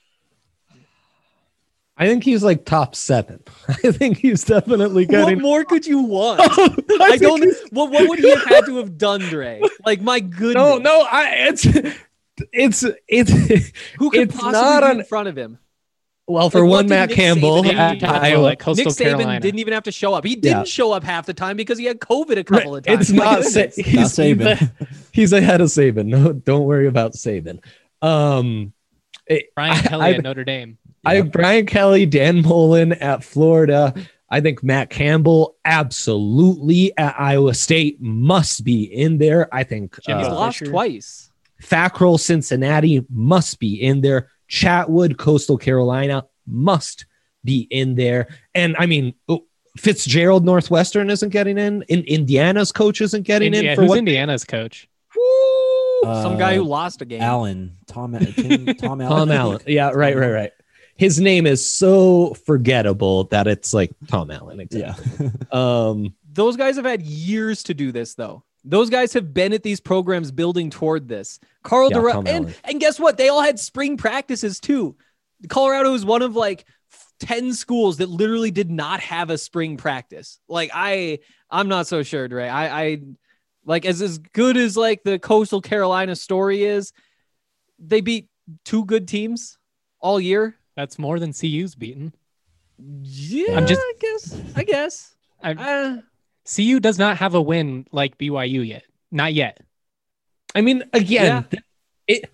I think he's like top seven. I think he's definitely What getting. more could you want? I I think don't. he's- What what would he have had to have done, Dre? Like, my goodness. No, no, I it's it's it's Who could it's possibly not be on- in front of him? well for Like, what one did Matt Nick Campbell Saban at do? Iowa. Like Coastal Nick Saban Carolina. didn't even have to show up. He didn't Yeah. show up half the time because he had COVID a couple of times. It's My not Sa- goodness. he's, Not he's, Saban. a- he's ahead of Saban. No, don't worry about Saban. Um, it- Brian I- Kelly I- at Notre Dame. I have Brian Kelly, Dan Mullen at Florida. I think Matt Campbell absolutely at Iowa State must be in there. I think Jimmy He's uh, lost Fisher. twice. Fackrell, Cincinnati must be in there. Chatwood, Coastal Carolina must be in there. And I mean, oh, Fitzgerald, Northwestern isn't getting in. in Indiana's coach isn't getting Indi- in for who's what? Indiana's coach? Woo! Some guy who lost a game. Allen, Tom, Tim, Tom Allen. Tom Allen. Yeah, right, right, right. His name is so forgettable that it's like Tom Allen. Yeah. Exactly. Um, Those guys have had years to do this, though. Those guys have been at these programs building toward this. Carl Yeah, Durrell, Tom and Allen. and guess what? They all had spring practices too. Colorado is one of like ten schools that literally did not have a spring practice. Like I, I'm not so sure, Dre. I, I like as as good as like the Coastal Carolina story is. They beat two good teams all year. That's more than C U's beaten. Yeah, I'm just- I guess. I guess. I, Uh, C U does not have a win like B Y U yet. Not yet. I mean, again, Yeah. th- it.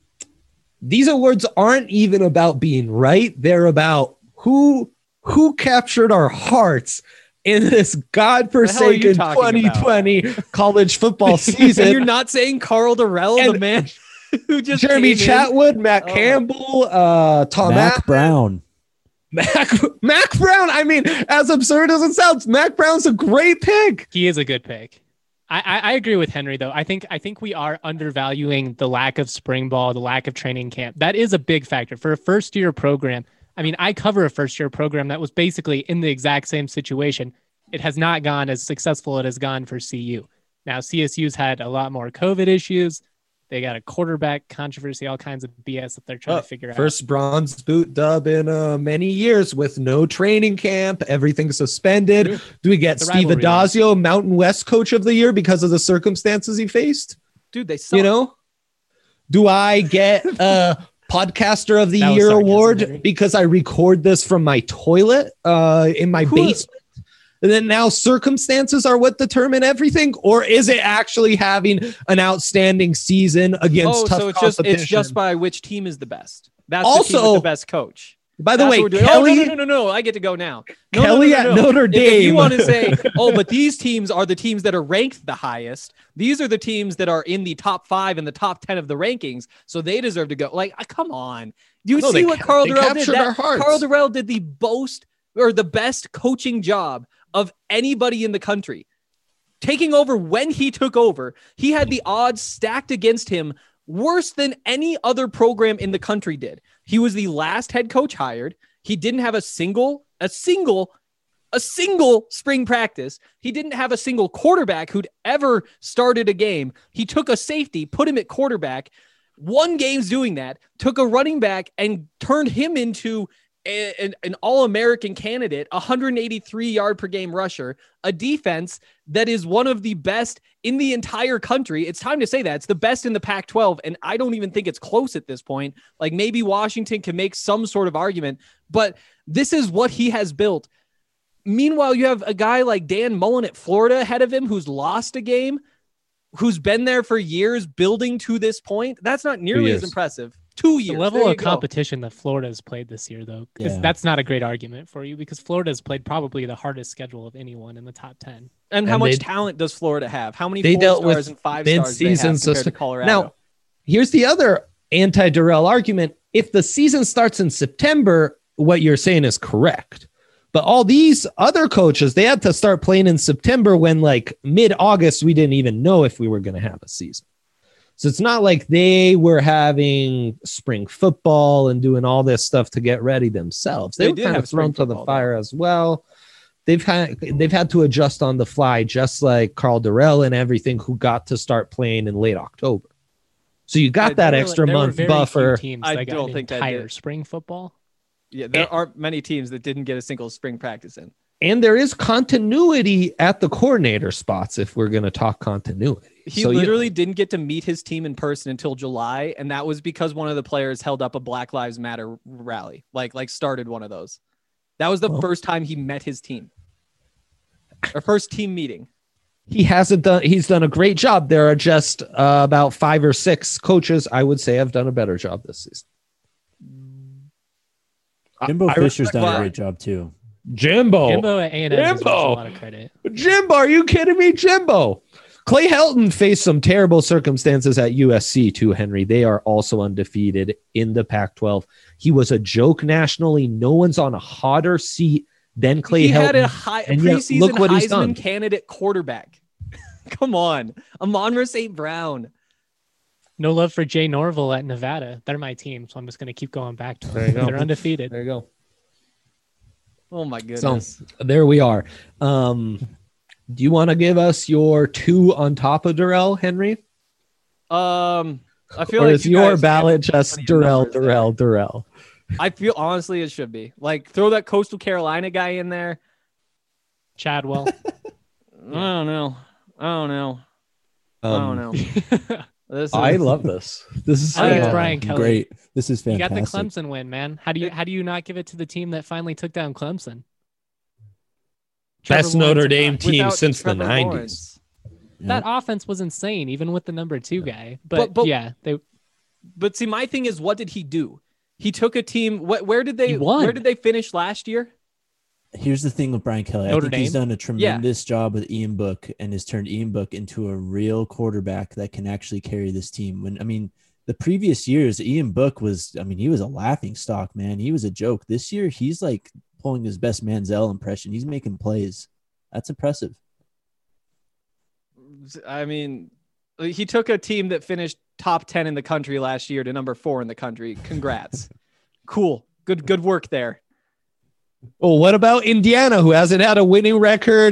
These awards aren't even about being right. They're about who who captured our hearts in this godforsaken talking twenty about? twenty college football and you're season. not saying Carl Durrell, the And- man who just Jeremy came in? Chatwood, Matt Oh. Campbell, uh, Tom Mac Allen, Brown. Mac, Mac Brown. I mean, as absurd as it sounds, Mac Brown's a great pick. He is a good pick. I, I, I agree with Henry though. I think I think we are undervaluing the lack of spring ball, the lack of training camp. That is a big factor for a first year program. I mean, I cover a first year program that was basically in the exact same situation. It has not gone as successful as it has gone for C U. Now C S U's had a lot more COVID issues. They got a quarterback controversy, all kinds of B S that they're trying Oh, to figure out. First bronze boot dub in uh, many years with no training camp. Everything suspended. True. Do we get The Steve rivalry. Adazio, Mountain West Coach of the Year, because of the circumstances he faced? Dude, they suck. You know? Do I get a Podcaster of the That was Year sarcasm, award Henry. because I record this from my toilet uh, in my Who- basement? And then now circumstances are what determine everything? Or is it actually having an outstanding season against Oh, tough so it's just competition? it's just by which team is the best. That's the team Also- with the best coach. By the That's way, what we're doing. Kelly, Oh, no, no, no, no, no. I get to go now. No, Kelly no, no, no, at no. Notre If- If you Dame. want to say, oh, but these teams are the teams that are ranked the highest. These are the teams that are in the top five and the top ten of the rankings. So they deserve to go. Like, uh, come on. Do you No, see they what ca- Carl they Durrell did? captured That- our hearts. Carl Durrell did the most or the best coaching job of anybody in the country. Taking over when he took over, he had the odds stacked against him worse than any other program in the country did. He was the last head coach hired. He didn't have a single, a single, a single spring practice. He didn't have a single quarterback who'd ever started a game. He took a safety, put him at quarterback, won games doing that, took a running back and turned him into a- an, an all-American candidate, a one hundred eighty-three yard per game rusher, a defense that is one of the best in the entire country. It's time to say that. It's the best in the Pac twelve, and I don't even think it's close at this point. Like, maybe Washington can make some sort of argument, but this is what he has built. Meanwhile, you have a guy like Dan Mullen at Florida ahead of him who's lost a game, who's been there for years building to this point. That's not nearly as years. impressive. Two years. The level There you of go. competition that Florida has played this year, though, because Yeah. that's not a great argument for you because Florida has played probably the hardest schedule of anyone in the top ten. And how And much they- talent does Florida have? How many They four dealt stars with and five stars they have mid-season compared to system. Colorado? Now, here's the other anti-Durrell argument. If the season starts in September, what you're saying is correct. But all these other coaches, they had to start playing in September when, like, mid-August, we didn't even know if we were going to have a season. So it's not like they were having spring football and doing all this stuff to get ready themselves. They, They were did kind have of thrown spring to the football, fire as well. They've had they've had to adjust on the fly, just like Carl Durrell and everything, who got to start playing in late October. So you got I- that there were- extra There were month very few buffer. teams I that got don't an think that entire did. spring football. Yeah, there And- aren't many teams that didn't get a single spring practice in. And there is continuity at the coordinator spots if we're going to talk continuity. He So, you- literally didn't get to meet his team in person until July, and that was because one of the players held up a Black Lives Matter rally, like like started one of those. That was the Well. first time he met his team, or first team meeting. he hasn't done he's done a great job. There are just uh, about five or six coaches I would say have done a better job this season. Jimbo I Fisher's respect done a that. great job too. Jimbo. Jimbo at A and M deserves a Jimbo. lot of credit. Jimbo, are you kidding me? Jimbo. Clay Helton faced some terrible circumstances at U S C too, Henry. They are also undefeated in the Pac twelve. He was a joke nationally. No one's on a hotter seat than Clay he Helton. had a high and yet preseason look what he's done. Heisman candidate quarterback. Come on, Amon-Ra Saint Brown. No love for Jay Norville at Nevada. They're my team, so I'm just going to keep going back to There you them. go. They're undefeated. There you go. Oh my goodness. There we are. Um, do you want to give us your two on top of Durrell, Henry? Um, I feel Or like is you your guys- ballot just plenty of Durrell, numbers there. Durrell, Durrell? I feel honestly it should be like throw that Coastal Carolina guy in there. Chadwell. I don't know. I don't know. I Um, don't know. This is, I love this. This is I think it's Uh, Brian Kelly. Great. This is You fantastic. got the Clemson win, man. How do you how do you not give it to the team that finally took down Clemson? Trevor Best Lawrence Notre and Dame Brock. team without since the Trevor nineties. Lawrence. That offense was insane, even with the number two guy. But, But- but- yeah, they But see, my thing is, what did he do? He took a team. Wh- where did they? He won. Where did they finish last year? Here's the thing with Brian Kelly. I Notre think he's Dame? done a tremendous job with Ian Book and has turned Ian Book into a real quarterback that can actually carry this team. When I mean, the previous years, Ian Book was, I mean, he was a laughing stock, man. He was a joke. This year, he's like pulling his best Manziel impression. He's making plays. That's impressive. I mean, he took a team that finished top ten in the country last year to number four in the country. Congrats. Cool. Good. Good work there. Well, what about Indiana, who hasn't had a winning record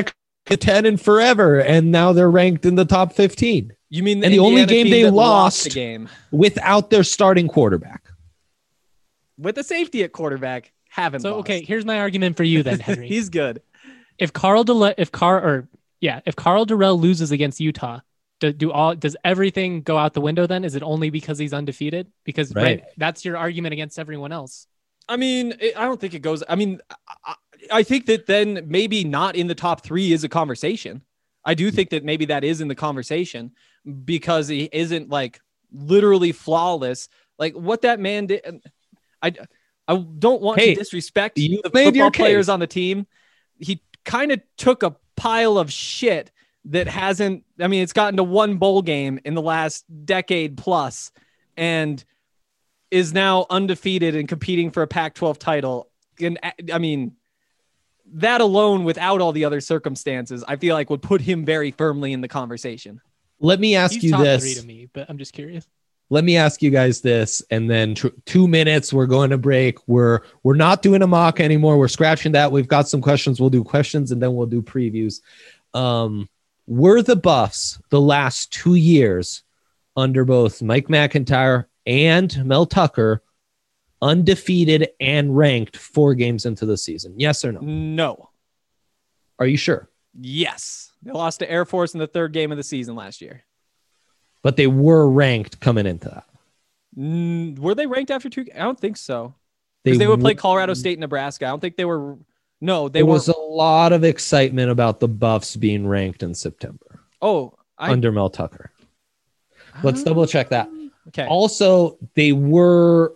ten in forever, and now they're ranked in the top fifteen. You mean And the only Indiana game team they that lost- the game Without their starting quarterback. with the safety at quarterback? Haven't So lost. okay, here's my argument for you then, Henry. He's good. if Carl Dele- if Car or yeah, if Carl Durrell loses against Utah, do, do all does everything go out the window then? Is it only because he's undefeated? Because Right. right, that's your argument against everyone else. I mean, it, I don't think it goes. I mean, I, I think that then maybe not in the top three is a conversation. I do think that maybe that is in the conversation because he isn't like literally flawless. Like what that man did. I, I don't want Hey, to disrespect you the made football your players case. on the team. He kind of took a pile of shit that hasn't, I mean, it's gotten to one bowl game in the last decade plus and is now undefeated and competing for a Pac twelve title. And I mean, that alone without all the other circumstances, I feel like would put him very firmly in the conversation. Let me ask He's you top this. three to me, but I'm just curious. Let me ask you guys this, and then tr- two minutes. We're going to break. We're we're not doing a mock anymore. We're scratching that. We've got some questions. We'll do questions, and then we'll do previews. Um, were the Buffs the last two years under both Mike McIntyre and Mel Tucker undefeated and ranked four games into the season? Yes or no? No. Are you sure? Yes. They lost to Air Force in the third game of the season last year. But they were ranked coming into that. Mm, were they ranked after two? I don't think so. They, Because they, would play w- Colorado State and Nebraska. I don't think they were. No, they There were. was a lot of excitement about the Buffs being ranked in September oh, I. under Mel Tucker. Let's Ah, double check that. Okay. Also, they were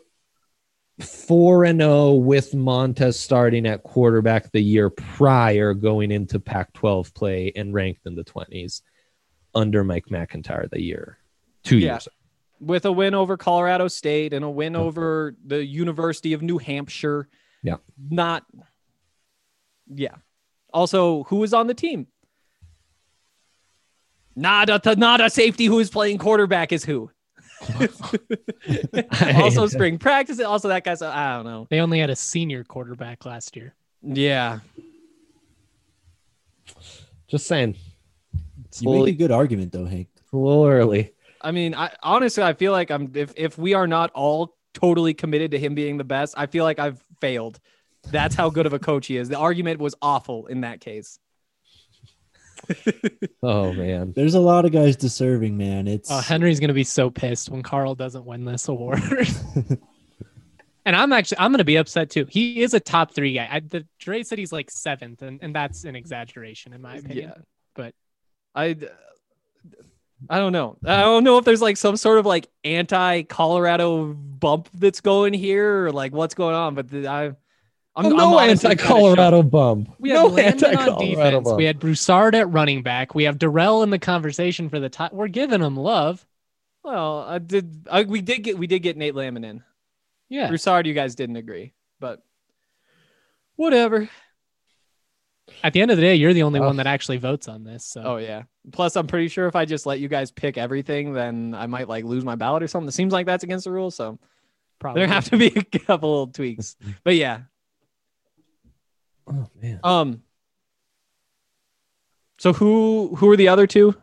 four and zero with Montez starting at quarterback the year prior, going into Pac twelve play and ranked in the twenties under Mike McIntyre the year two Yeah. years. With a win over Colorado State and a win over the University of New Hampshire. Yeah. Not. Yeah. Also, who was on the team? Not a, not a safety who is playing quarterback is who. Also, spring practice. Also, that guy's. I don't know. They only had a senior quarterback last year. Yeah. Just saying, it's a You make a little, good argument though, Hank. a little early. I mean, I honestly, I feel like I'm. If if we are not all totally committed to him being the best, I feel like I've failed. That's how good of a coach he is. The argument was awful in that case. Oh man, There's a lot of guys deserving, man. It's Oh, Henry's gonna be so pissed when Carl doesn't win this award. And I'm actually I'm gonna be upset too. He is a top three guy. I, the Dre said he's like seventh, and, and that's an exaggeration in my opinion. Yeah. But I. I don't know. I don't know if there's like some sort of like anti-Colorado bump that's going here or like what's going on, but the, I. I'm, Oh, I'm no honestly kinda anti-Colorado shocked. bump. we had no Landon on anti-Colorado defense. bump. We had Broussard at running back. We have Darrell in the conversation for the top. We're giving him love. Well, I did. I, we did get. We did get Nate Lamon in. Yeah. Broussard, you guys didn't agree, but whatever. At the end of the day, you're the only Oh. one that actually votes on this. So Oh yeah. Plus, I'm pretty sure if I just let you guys pick everything, then I might like lose my ballot or something. It seems like that's against the rules, so probably there have to be a couple tweaks. But yeah. Oh man. Um. So who who are the other two?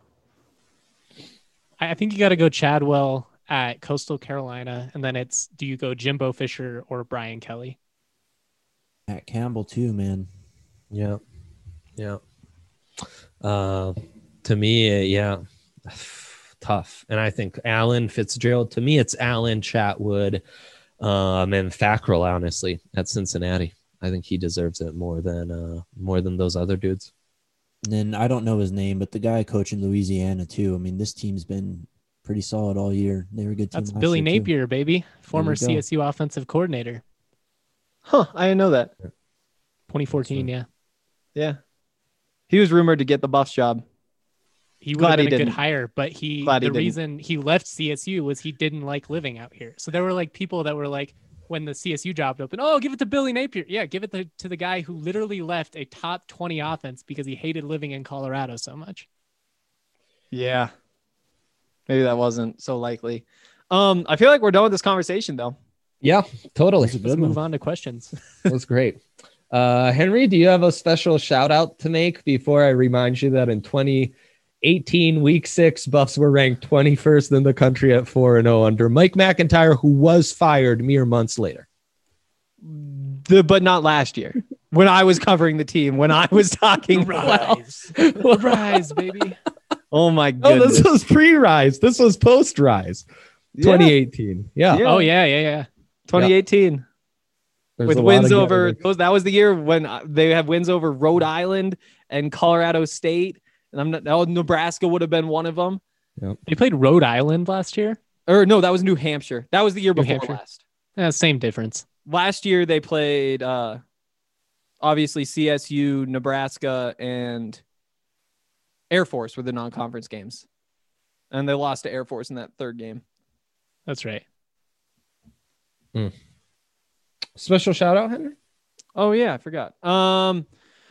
I I think you got to go Chadwell at Coastal Carolina, and then it's do you go Jimbo Fisher or Brian Kelly? Matt Campbell too, man. Yeah. Yeah. Uh, to me, uh, yeah, tough. And I think Allen Fitzgerald, to me, it's Allen, Chatwood, um, and Fackrell, honestly, at Cincinnati. I think he deserves it more than uh, more than those other dudes. And then I don't know his name, but the guy coaching Louisiana too. I mean, this team's been pretty solid all year. They were a good team. That's last Billy year, too. Napier, baby, former you go. C S U offensive coordinator, Huh? I didn't know that. twenty fourteen. Yeah, Yeah. He was rumored to get the Buffs job. he would Glad have he been a good didn't. hire, but he Glad he the didn't. reason he left C S U was he didn't like living out here. So there were like people that were like, when the C S U job opened, oh, give it to Billy Napier. Yeah, give it to, to the guy who literally left a top twenty offense because he hated living in Colorado so much. Yeah. Maybe that wasn't so likely. Um, I feel like we're done with this conversation though. Yeah, totally. That's a Let's good move one. on to questions. That was great. Uh, Henry, do you have a special shout out to make before I remind you that in twenty eighteen, week six, Buffs were ranked twenty-first in the country at four and oh under Mike McIntyre, who was fired mere months later? The, but not last year when I was covering the team, when I was talking. Rise. Rise, baby. Oh my Oh, goodness. this was pre-rise. This was post-rise. Yeah. twenty eighteen. Yeah. Yeah. Oh, yeah, yeah, yeah. twenty eighteen. There's With a lot wins of over getting- those, that was the year when uh, they have wins over Rhode Island and Colorado State, and I'm not. Oh, Nebraska would have been one of them. They played Rhode Island last year. Or no, that was New Hampshire. That was the year New before Hampshire. last. Yeah, same difference. Last year they played uh, obviously C S U, Nebraska, and Air Force were the non-conference games, and they lost to Air Force in that third game. That's right. Special shout out, Henry? Oh yeah, I forgot. Um,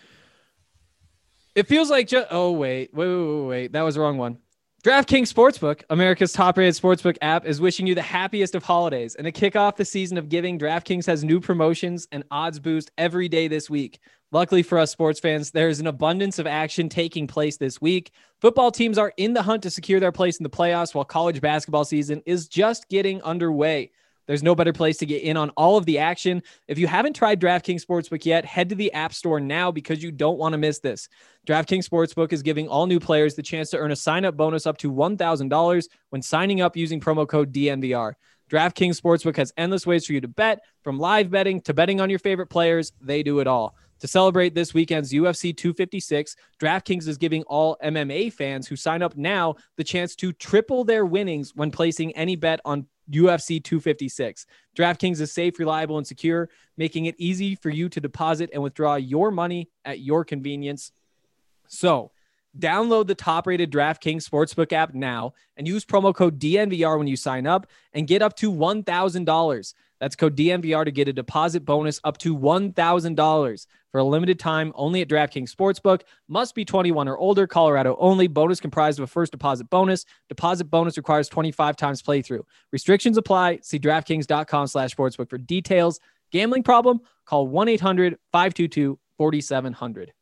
it feels like just. Oh wait, wait, wait, wait, wait. That was the wrong one. DraftKings Sportsbook, America's top-rated sportsbook app, is wishing you the happiest of holidays. And to kick off the season of giving, DraftKings has new promotions and odds boost every day this week. Luckily for us sports fans, there is an abundance of action taking place this week. Football teams are in the hunt to secure their place in the playoffs, while college basketball season is just getting underway. There's no better place to get in on all of the action. If you haven't tried DraftKings Sportsbook yet, head to the App Store now because you don't want to miss this. DraftKings Sportsbook is giving all new players the chance to earn a sign-up bonus up to one thousand dollars when signing up using promo code D N V R. DraftKings Sportsbook has endless ways for you to bet, from live betting to betting on your favorite players. They do it all. To celebrate this weekend's U F C two fifty-six, DraftKings is giving all M M A fans who sign up now the chance to triple their winnings when placing any bet on U F C two fifty-six. DraftKings is safe, reliable, and secure, making it easy for you to deposit and withdraw your money at your convenience. So, download the top-rated DraftKings Sportsbook app now and use promo code D N V R when you sign up and get up to one thousand dollars. That's code D N V R to get a deposit bonus up to one thousand dollars for a limited time only at DraftKings Sportsbook. Must be twenty-one or older, Colorado only. Bonus comprised of a first deposit bonus. Deposit bonus requires twenty-five times playthrough. Restrictions apply. See DraftKings.com slash sportsbook for details. Gambling problem? Call one eight hundred five two two four seven zero zero.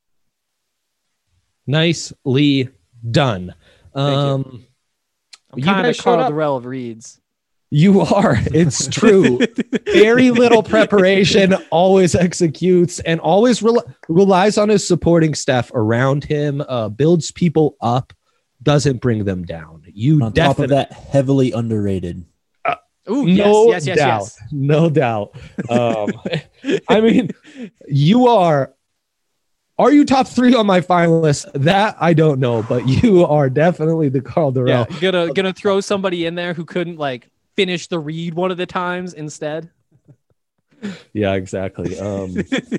Nicely done. Um, I'm You kind guys of showed Carl up. Durrell of Reeds. You are. It's true. Very little preparation, always executes, and always rel- relies on his supporting staff around him, uh, builds people up, doesn't bring them down. You On top definitely, of that, heavily underrated. Ooh, no yes, yes, yes, doubt. yes. No doubt. Um, I mean, you are. Are you top three on my final list? That I don't know, but you are definitely the Carl Durrell. Yeah, gonna gonna throw somebody in there who couldn't like finish the read one of the times instead. Yeah, exactly. Um,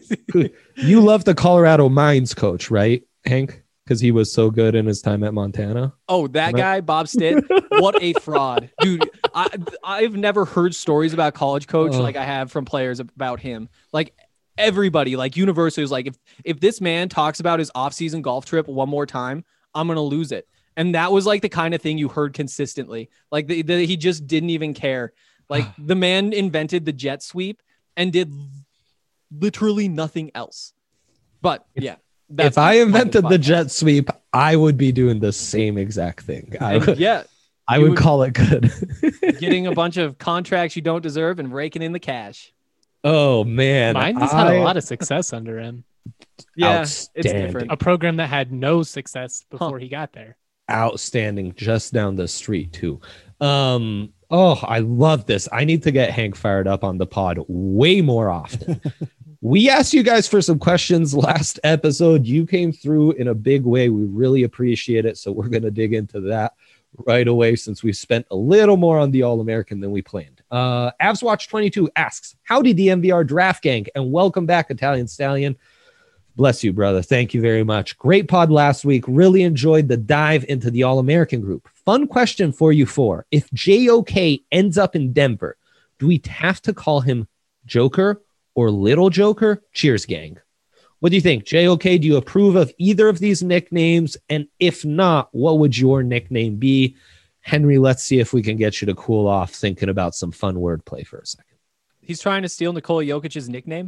you love the Colorado Mines coach, right, Hank? Because he was so good in his time at Montana. Oh, that Am I- guy, Bob Stitt, what a fraud, dude! I I've never heard stories about college coach Oh. like I have from players about him. Like everybody, like universally, is like if if this man talks about his off-season golf trip one more time, I'm gonna lose it. And that was like the kind of thing you heard consistently. Like the, the, he just didn't even care. Like the man invented the jet sweep and did literally nothing else. But yeah, If I invented the jet sweep, I would be doing the same exact thing. I And would, yeah, I you would would- call it good. getting a bunch of contracts you don't deserve and raking in the cash. Oh man, Mine has had I- a lot of success under him. Yeah, it's Outstanding. different. A program that had no success before he got there. outstanding just down the street too. Um, oh, I love this. I need to get Hank fired up on the pod way more often. We asked you guys for some questions last episode. You came through in a big way. We really appreciate it. So we're going to dig into that right away since we spent a little more on the All-American than we planned. Uh, Avs Watch twenty-two asks, howdy D M V R Draft Gang, and welcome back, Italian Stallion. Bless you, brother. Thank you very much. Great pod last week. Really enjoyed the dive into the All-American group. Fun question for you four. If J O K ends up in Denver, do we have to call him Joker or Little Joker? Cheers, gang. What do you think? J O K, do you approve of either of these nicknames? And if not, what would your nickname be? Henry, let's see if we can get you to cool off thinking about some fun wordplay for a second. He's trying to steal Nikola Jokic's nickname.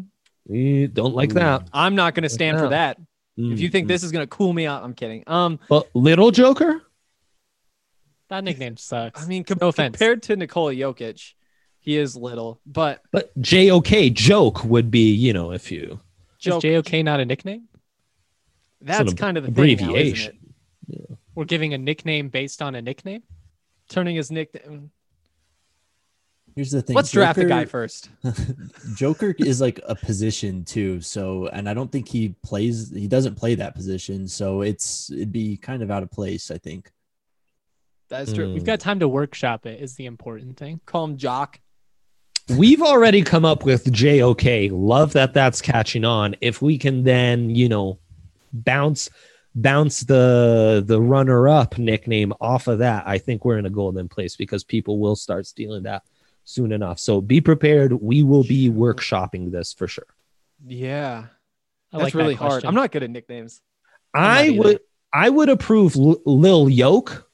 We don't like Ooh. that. I'm not going to stand for Yeah. that. If you think Mm, this is going to cool me out, I'm kidding. Um, but little Joker, That nickname sucks. I mean, com- no offense. compared to Nikola Jokic, he is little, but but J O K joke would be, you know, if you Is Joke, J O K not a nickname? that's an kind of the thing now, isn't abbreviation. it? We're giving a nickname based on a nickname. Turning his nickname. Here's the thing. Let's draft the Joker- guy first. Joker is like a position too. So, and I don't think he plays, he doesn't play that position. So it's, it'd be kind of out of place, I think. That's true. Mm. We've got time to workshop it. Is the important thing. Call him Jock. we've already come up with J O K. Love that that's catching on. If we can then, you know, bounce bounce the the runner up nickname off of that, I think we're in a golden place because people will start stealing that soon enough. So be prepared. We will be workshopping this for sure. Yeah, I that's like that really hard. question. I'm not good at nicknames. I'm I not either. would I would approve L- Lil Yoke.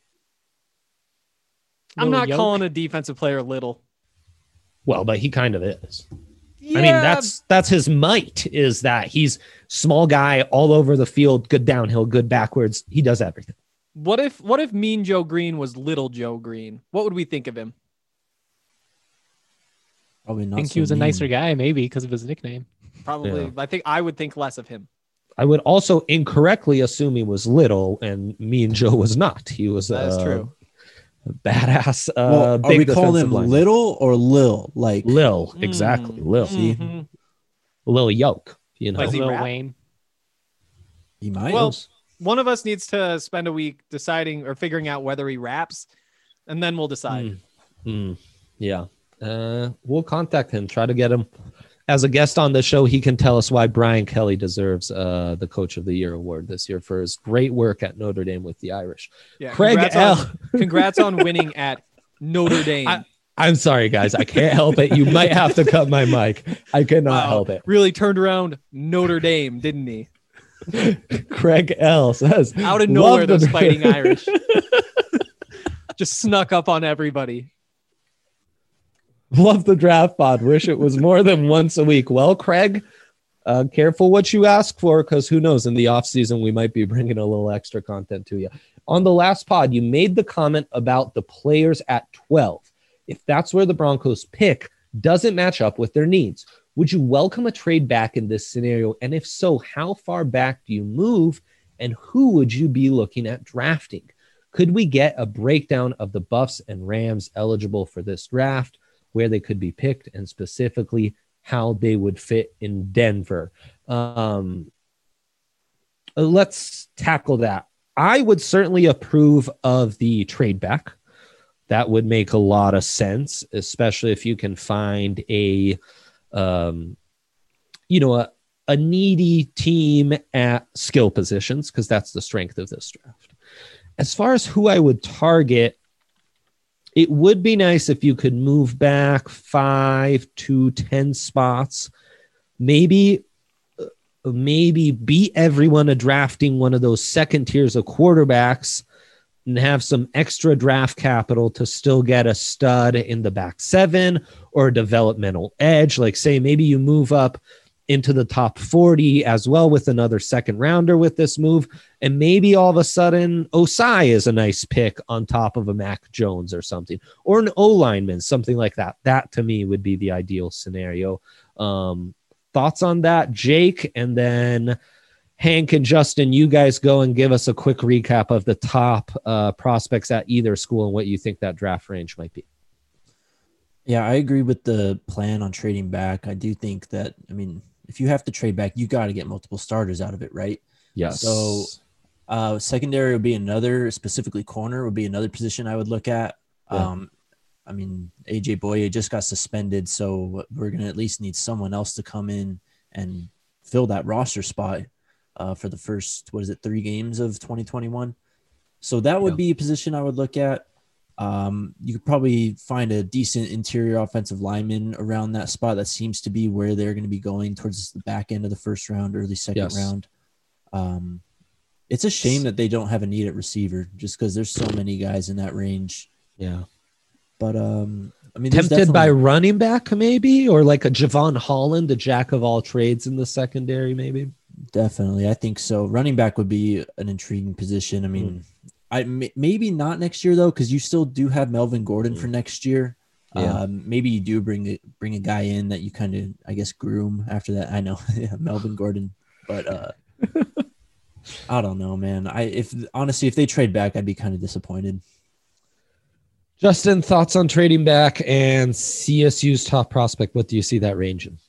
I'm Lil not Yoke? calling a defensive player little. Well, but he kind of is. Yeah, I mean, that's that's his might is that he's small guy all over the field, good downhill, good backwards. He does everything. what if what if Mean Joe Green was Little Joe Green? What would we think of him? Probably I not. think so he was a mean. nicer guy, maybe because of his nickname. Probably. Yeah. I think I would think less of him. I would also incorrectly assume he was little, and me and Joe was not. He was That's uh, true. a badass. Uh, Well, are big we calling defensive him lineman. Lil or Lil? Like, Lil, exactly. Mm. Lil, See? Mhm. Lil Yoke. You know, Like Does he Lil rap? Wayne. he might. Well, one of us needs to spend a week deciding or figuring out whether he raps, and then we'll decide. Mm. Mm. Yeah. Uh, we'll contact him. Try to get him as a guest on the show. He can tell us why Brian Kelly deserves uh, the Coach of the Year award this year for his great work at Notre Dame with the Irish. Yeah, Craig congrats L. On, congrats on winning at Notre Dame. I- I'm sorry, guys. I can't help it. You might have to cut my mic. I cannot Wow, help it. Really turned around Notre Dame, didn't he? Craig L says Out of "Love nowhere, the- those fighting Irish just snuck up on everybody. Love the draft pod. Wish it was more than once a week. Well, Craig, uh, careful what you ask for, because who knows? In the off season, we might be bringing a little extra content to you. On the last pod, you made the comment about the players at twelve. If that's where the Broncos pick, doesn't match up with their needs. Would you welcome a trade back in this scenario? And if so, how far back do you move? And who would you be looking at drafting? Could we get a breakdown of the Buffs and Rams eligible for this draft, where they could be picked, and specifically how they would fit in Denver? Um, let's tackle that. I would certainly approve of the trade back. That would make a lot of sense, especially if you can find a, um, you know, a, a needy team at skill positions, because that's the strength of this draft. As far as who I would target, it would be nice if you could move back five to ten spots, maybe, uh, maybe beat everyone at drafting one of those second tiers of quarterbacks and have some extra draft capital to still get a stud in the back seven or a developmental edge. Like, say, maybe you move up into the top forty as well with another second rounder with this move. And maybe all of a sudden Osai is a nice pick on top of a Mac Jones or something, or an O lineman, something like that. That to me would be the ideal scenario. Um, thoughts on that, Jake? And then Hank and Justin, you guys go and give us a quick recap of the top uh, prospects at either school and what you think that draft range might be. Yeah, I agree with the plan on trading back. I do think that, I mean, if you have to trade back, you got to get multiple starters out of it, right? Yes. So uh, secondary would be another, specifically corner would be another position I would look at. Yeah. Um, I mean, A J Boye just got suspended, so we're going to at least need someone else to come in and fill that roster spot uh, for the first, what is it, three games of twenty twenty-one. So that would Yeah. be a position I would look at. Um, you could probably find a decent interior offensive lineman around that spot. That seems to be where they're going to be going towards the back end of the first round, early second Yes. round. Um, it's a shame that they don't have a need at receiver just because there's so many guys in that range. Yeah. But um, I mean, there's Tempted by definitely- running back, maybe, or like a Javon Holland, a jack of all trades in the secondary, maybe. Definitely, I think so. Running back would be an intriguing position. I mean, Mm. I m- maybe not next year though, because you still do have Melvin Gordon for next year. Yeah. Um, maybe you do bring a, bring a guy in that you kind of, I guess, groom after that. I know, yeah, Melvin Gordon, but uh, I don't know, man. I if honestly, if they trade back, I'd be kind of disappointed. Justin, thoughts on trading back and C S U's top prospect? What do you see that range in?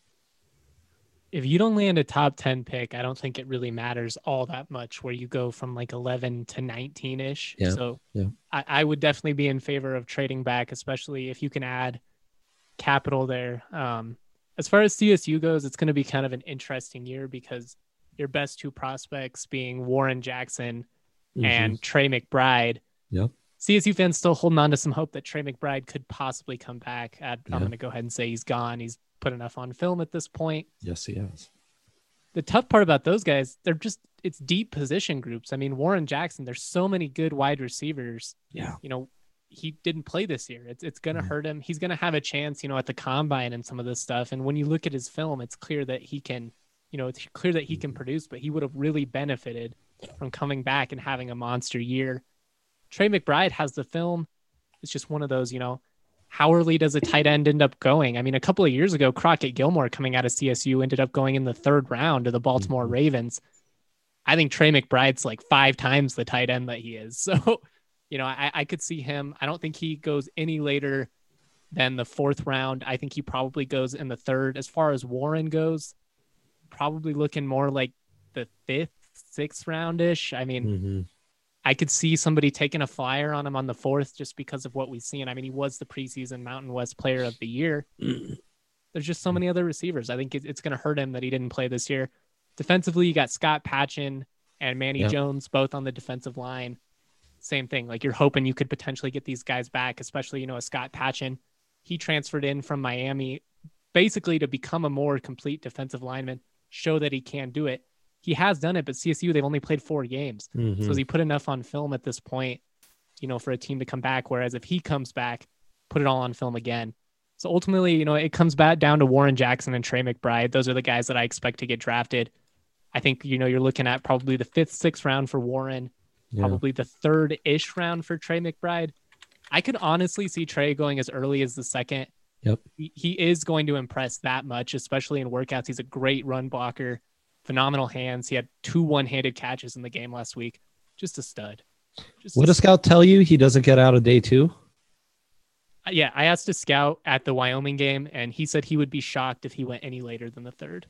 If you don't land a top ten pick, I don't think it really matters all that much where you go from like eleven to nineteen ish. Yeah, So yeah. I, I would definitely be in favor of trading back, especially if you can add capital there. Um, as far as C S U goes, it's going to be kind of an interesting year because your best two prospects being Warren Jackson Mhm. and Trey McBride. Yep. C S U fans still holding on to some hope that Trey McBride could possibly come back. I, Yeah. I'm going to go ahead and say he's gone. He's put enough on film at this point. Yes, he has. The tough part about those guys, they're just, it's deep position groups. I mean, Warren Jackson, there's so many good wide receivers. Yeah. You know, he didn't play this year. It's, it's going to Mhm. hurt him. He's going to have a chance, you know, at the combine and some of this stuff. And when you look at his film, it's clear that he can, you know, it's clear that he can produce, but he would have really benefited from coming back and having a monster year. Trey McBride has the film. It's just one of those, you know, how early does a tight end end up going? I mean, a couple of years ago, Crockett Gilmore coming out of C S U ended up going in the third round to the Baltimore Mhm. Ravens. I think Trey McBride's like five times the tight end that he is. So, you know, I, I could see him. I don't think he goes any later than the fourth round. I think he probably goes in the third. As far as Warren goes, probably looking more like the fifth, sixth round-ish. I mean, Mhm. I could see somebody taking a flyer on him on the fourth just because of what we've seen. I mean, he was the preseason Mountain West Player of the Year. There's just so many other receivers. I think it- it's going to hurt him that he didn't play this year. Defensively, you got Scott Patchin and Manny Yep. Jones both on the defensive line. Same thing. Like you're hoping you could potentially get these guys back, especially, you know, a Scott Patchin. He transferred in from Miami basically to become a more complete defensive lineman, show that he can do it. He has done it, but C S U, they've only played four games. Mhm. So has he put enough on film at this point, you know, for a team to come back? Whereas if he comes back, put it all on film again. So ultimately, you know, it comes back down to Warren Jackson and Trey McBride. Those are the guys that I expect to get drafted. I think, you know, you're looking at probably the fifth, sixth round for Warren, Yeah. probably the third-ish round for Trey McBride. I could honestly see Trey going as early as the second. Yep. He, he is going to impress that much, especially in workouts. He's a great run blocker, phenomenal hands. He had two one-handed catches in the game last week. Just a stud. Just What a does Scout tell you? He doesn't get out of day two? Yeah, I asked a scout at the Wyoming game, and he said he would be shocked if he went any later than the third.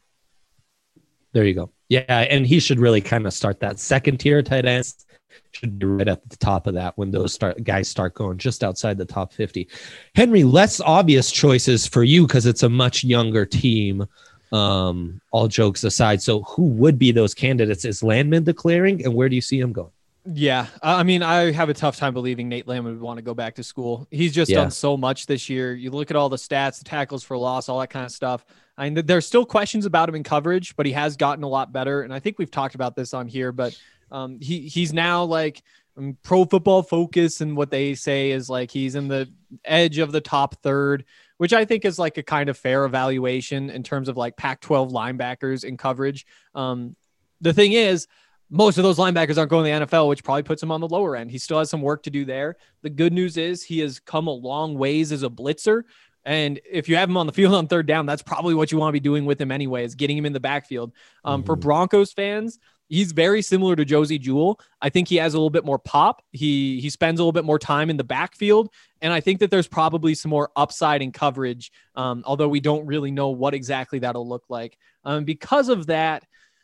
There you go. Yeah, and he should really kind of start that second tier tight ends. Should be right at the top of that when those start guys start going just outside the top fifty. Henry, less obvious choices for you because it's a much younger team. Um, all jokes aside, so who would be those candidates? Is Landman declaring, and where do you see him going? Yeah, I mean, I have a tough time believing Nate Landman would want to go back to school. He's just Yeah. done so much this year. You look at all the stats, the tackles for loss, all that kind of stuff. I mean, there's still questions about him in coverage, but he has gotten a lot better. And I think we've talked about this on here, but um, he he's now like um, Pro Football Focus, and what they say is like he's in the edge of the top third, which I think is like a kind of fair evaluation in terms of like Pac twelve linebackers in coverage. Um, the thing is, most of those linebackers aren't going to the N F L, which probably puts him on the lower end. He still has some work to do there. The good news is he has come a long ways as a blitzer. And if you have him on the field on third down, that's probably what you want to be doing with him anyway, is getting him in the backfield. Um, For Mhm. Broncos fans, he's very similar to Josie Jewell. I think he has a little bit more pop. He he spends a little bit more time in the backfield. And I think that there's probably some more upside in coverage, um, although we don't really know what exactly that'll look like. Um, because of that,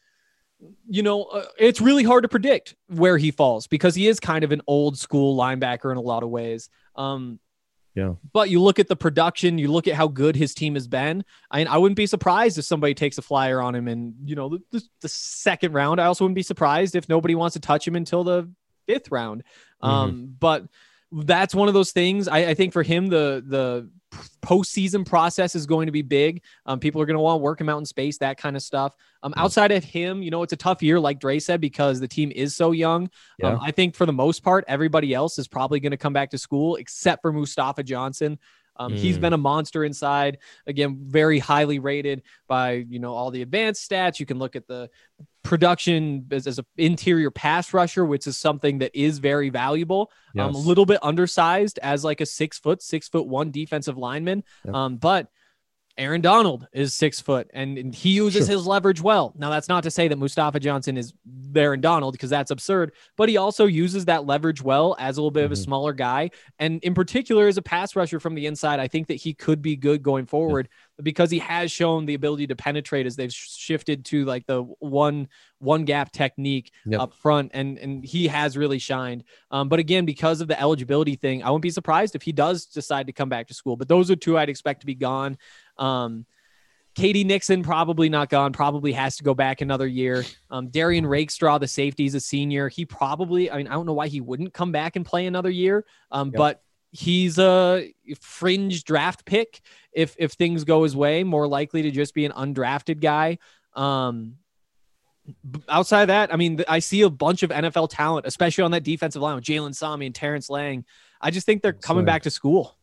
you know, uh, it's really hard to predict where he falls because he is kind of an old school linebacker in a lot of ways. Um, Yeah. But you look at the production, you look at how good his team has been. I mean, I wouldn't be surprised if somebody takes a flyer on him in, you know, the, the, the second round. I also wouldn't be surprised if nobody wants to touch him until the fifth round. Um, but that's one of those things. I, I think for him, the the postseason process is going to be big. Um, people are going to want to work him out in space, that kind of stuff. Um, outside of him, you know, it's a tough year, like Dre said, because the team is so young. Yeah. Um, I think for the most part, everybody else is probably going to come back to school except for Mustafa Johnson. Um, He's Mm. been a monster inside. Again, very highly rated by, you know, all the advanced stats. You can look at the production as, as an interior pass rusher, which is something that is very valuable. Um, a Yes. little bit undersized as like a six foot, six foot one defensive lineman. Yep. Um, but Aaron Donald is six foot and, and he uses Sure. his leverage well. Now, that's not to say that Mustafa Johnson is Aaron Donald because that's absurd, but he also uses that leverage well as a little bit of a Mhm. smaller guy. And in particular, as a pass rusher from the inside, I think that he could be good going forward because he has shown the ability to penetrate as they've sh- shifted to like the one, one gap technique Yep. up front. And, and he has really shined. Um, but again, because of the eligibility thing, I wouldn't be surprised if he does decide to come back to school, but those are two I'd expect to be gone. Um, Katie Nixon probably not gone, probably has to go back another year. Um, Darian Rakestraw, the safety, is a senior. He probably, I mean, I don't know why he wouldn't come back and play another year. Um, Yep. but he's a fringe draft pick. If, if things go his way, more likely to just be an undrafted guy. Um, b- outside of that, I mean, th- I see a bunch of N F L talent, especially on that defensive line with Jalen Sami and Terrence Lang. I just think they're coming Sorry. back to school.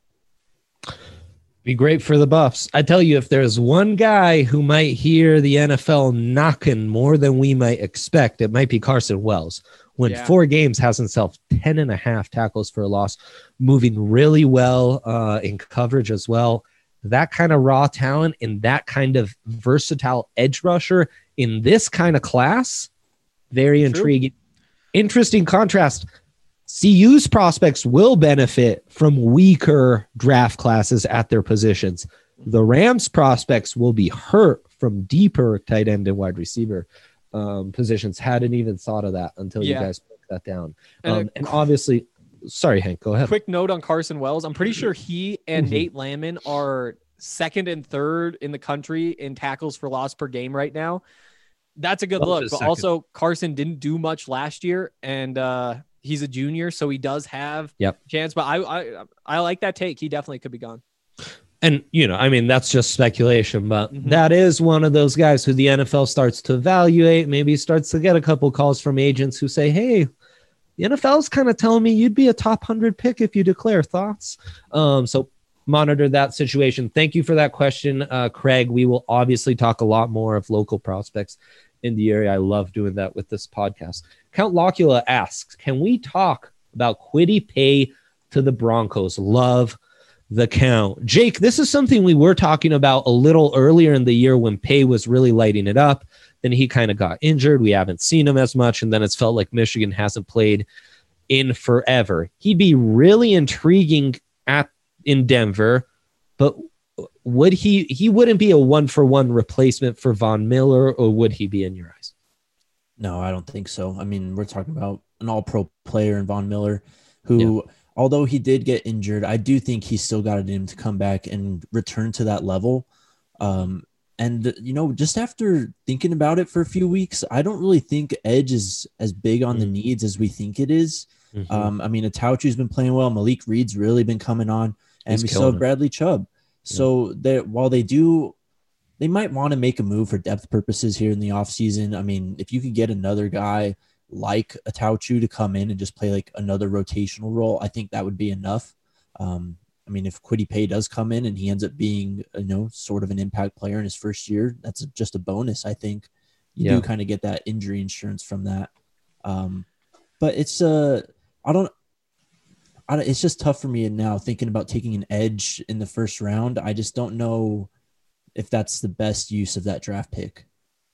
Be great for the Buffs. I tell you, if there's one guy who might hear the N F L knocking more than we might expect, it might be Carson Wells. When Yeah. four games has himself ten and a half tackles for a loss, moving really well uh, in coverage as well. That kind of raw talent and that kind of versatile edge rusher in this kind of class, very True. intriguing. Interesting contrast. C U's prospects will benefit from weaker draft classes at their positions. The Rams prospects will be hurt from deeper tight end and wide receiver um, positions. Hadn't even thought of that until Yeah. you guys broke that down. And Um, a and obviously, sorry, Hank, go ahead. Quick note on Carson Wells. I'm pretty sure he and Mhm. Nate Landman are second and third in the country in tackles for loss per game right now. That's a good Welch look. is But second. also, Carson didn't do much last year, and uh, he's a junior, so he does have Yep. a chance. But I, I, I like that take. He definitely could be gone. And, you know, I mean, that's just speculation, but Mhm. that is one of those guys who the N F L starts to evaluate, maybe starts to get a couple calls from agents who say, hey, the N F L's kind of telling me you'd be a top one hundred pick if you declare. Thoughts? Um, so monitor that situation. Thank you for that question, uh, Craig. We will obviously talk a lot more of local prospects in the area. I love doing that with this podcast. Count Locula asks, can we talk about Kwity Paye to the Broncos? Love the count. Jake, this is something we were talking about a little earlier in the year when Paye was really lighting it up. Then he kind of got injured. We haven't seen him as much. And then it's felt like Michigan hasn't played in forever. He'd be really intriguing at in Denver, but would he, he wouldn't be a one for one replacement for Von Miller, or would he be in your eyes? No, I don't think so. I mean, we're talking about an all-pro player in Von Miller who, although he did get injured, I do think he still got it in him to come back and return to that level. Um, and, you know, just after thinking about it for a few weeks, I don't really think edge is as big on the Mm. needs as we think it is. Mhm. Um, I mean, Atauchu's been playing well. Malik Reed's really been coming on. And He's we killing saw it. Bradley Chubb. So they while they do, they might want to make a move for depth purposes here in the offseason. I mean, if you could get another guy like Atauchu to come in and just play like another rotational role, I think that would be enough. Um, I mean, if Kwity Paye does come in and he ends up being, you know, sort of an impact player in his first year, that's just a bonus. I think you Yeah. do kind of get that injury insurance from that. Um, but it's uh, I don't. I don't, it's just tough for me now thinking about taking an edge in the first round. I just don't know if that's the best use of that draft pick.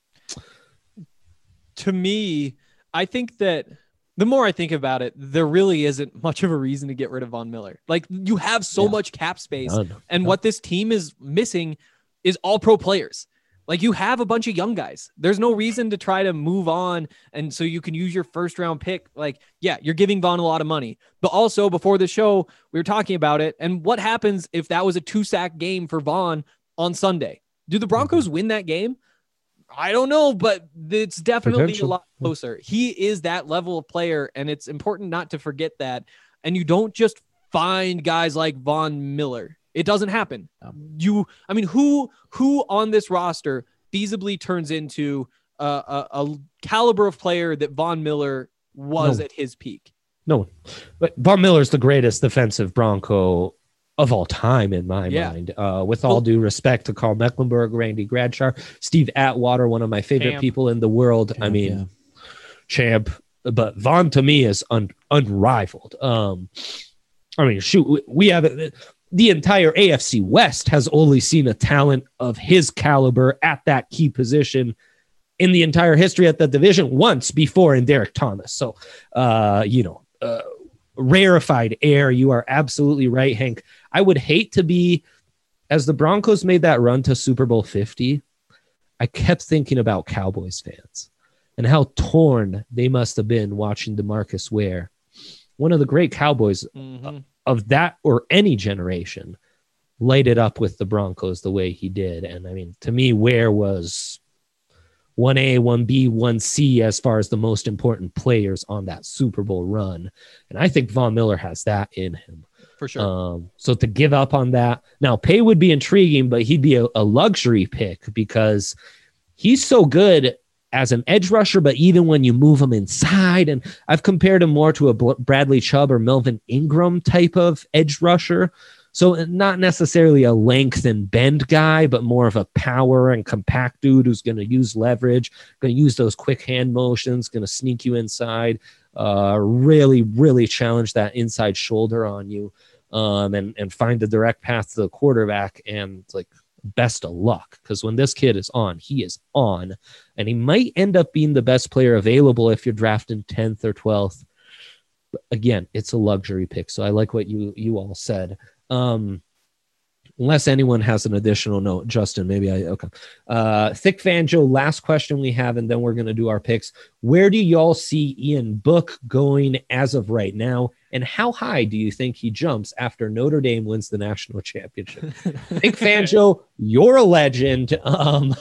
To me, I think that the more I think about it, there really isn't much of a reason to get rid of Von Miller. Like, you have so Yeah. much cap space, None. and what this team is missing is all pro players. Like, you have a bunch of young guys. There's no reason to try to move on. And so you can use your first round pick. Like, yeah, you're giving Vaughn a lot of money, but also before the show, we were talking about it. And what happens if that was a two sack game for Vaughn on Sunday? Do the Broncos win that game? I don't know, but it's definitely Potential. a lot closer. He is that level of player. And it's important not to forget that. And you don't just find guys like Von Miller. It doesn't happen. No. You, I mean, who who on this roster feasibly turns into a, a, a caliber of player that Von Miller was No. at his peak? No one. But Von Miller's the greatest defensive Bronco of all time in my Yeah. mind. Uh, with all due respect to Carl Mecklenburg, Randy Gradshar, Steve Atwater, one of my favorite Champ. people in the world. I Champ, mean, yeah. champ, but Vaughn to me is un- unrivaled. Um, I mean, shoot, we- we have the entire A F C West has only seen a talent of his caliber at that key position in the entire history at the division once before in Derek Thomas. So, uh, you know, uh, rarefied air. You are absolutely right, Hank. I would hate to be, as the Broncos made that run to Super Bowl fifty, I kept thinking about Cowboys fans and how torn they must have been watching DeMarcus Ware, one of the great Cowboys Mhm. of that or any generation, light it up with the Broncos the way he did. And I mean, to me, Ware was one A, one B, one C as far as the most important players on that Super Bowl run. And I think Von Miller has that in him. For sure. Um, so to give up on that, now Pay would be intriguing, but he'd be a, a luxury pick because he's so good as an edge rusher, but even when you move him inside, and I've compared him more to a Bl- Bradley Chubb or Melvin Ingram type of edge rusher. So not necessarily a length and bend guy, but more of a power and compact dude who's going to use leverage, going to use those quick hand motions, going to sneak you inside, uh, really, really challenge that inside shoulder on you, um, and, and find the direct path to the quarterback. And like, best of luck, because when this kid is on, he is on, and he might end up being the best player available if you're drafting tenth or twelfth. But again, it's a luxury pick. So I like what you, you all said. Um, unless anyone has an additional note, Justin, maybe I, okay. Uh, Thick Fan Joe, last question we have, and then we're going to do our picks. Where do y'all see Ian Book going as of right now? And how high do you think he jumps after Notre Dame wins the national championship? Thick Fan Joe, you're a legend. Um,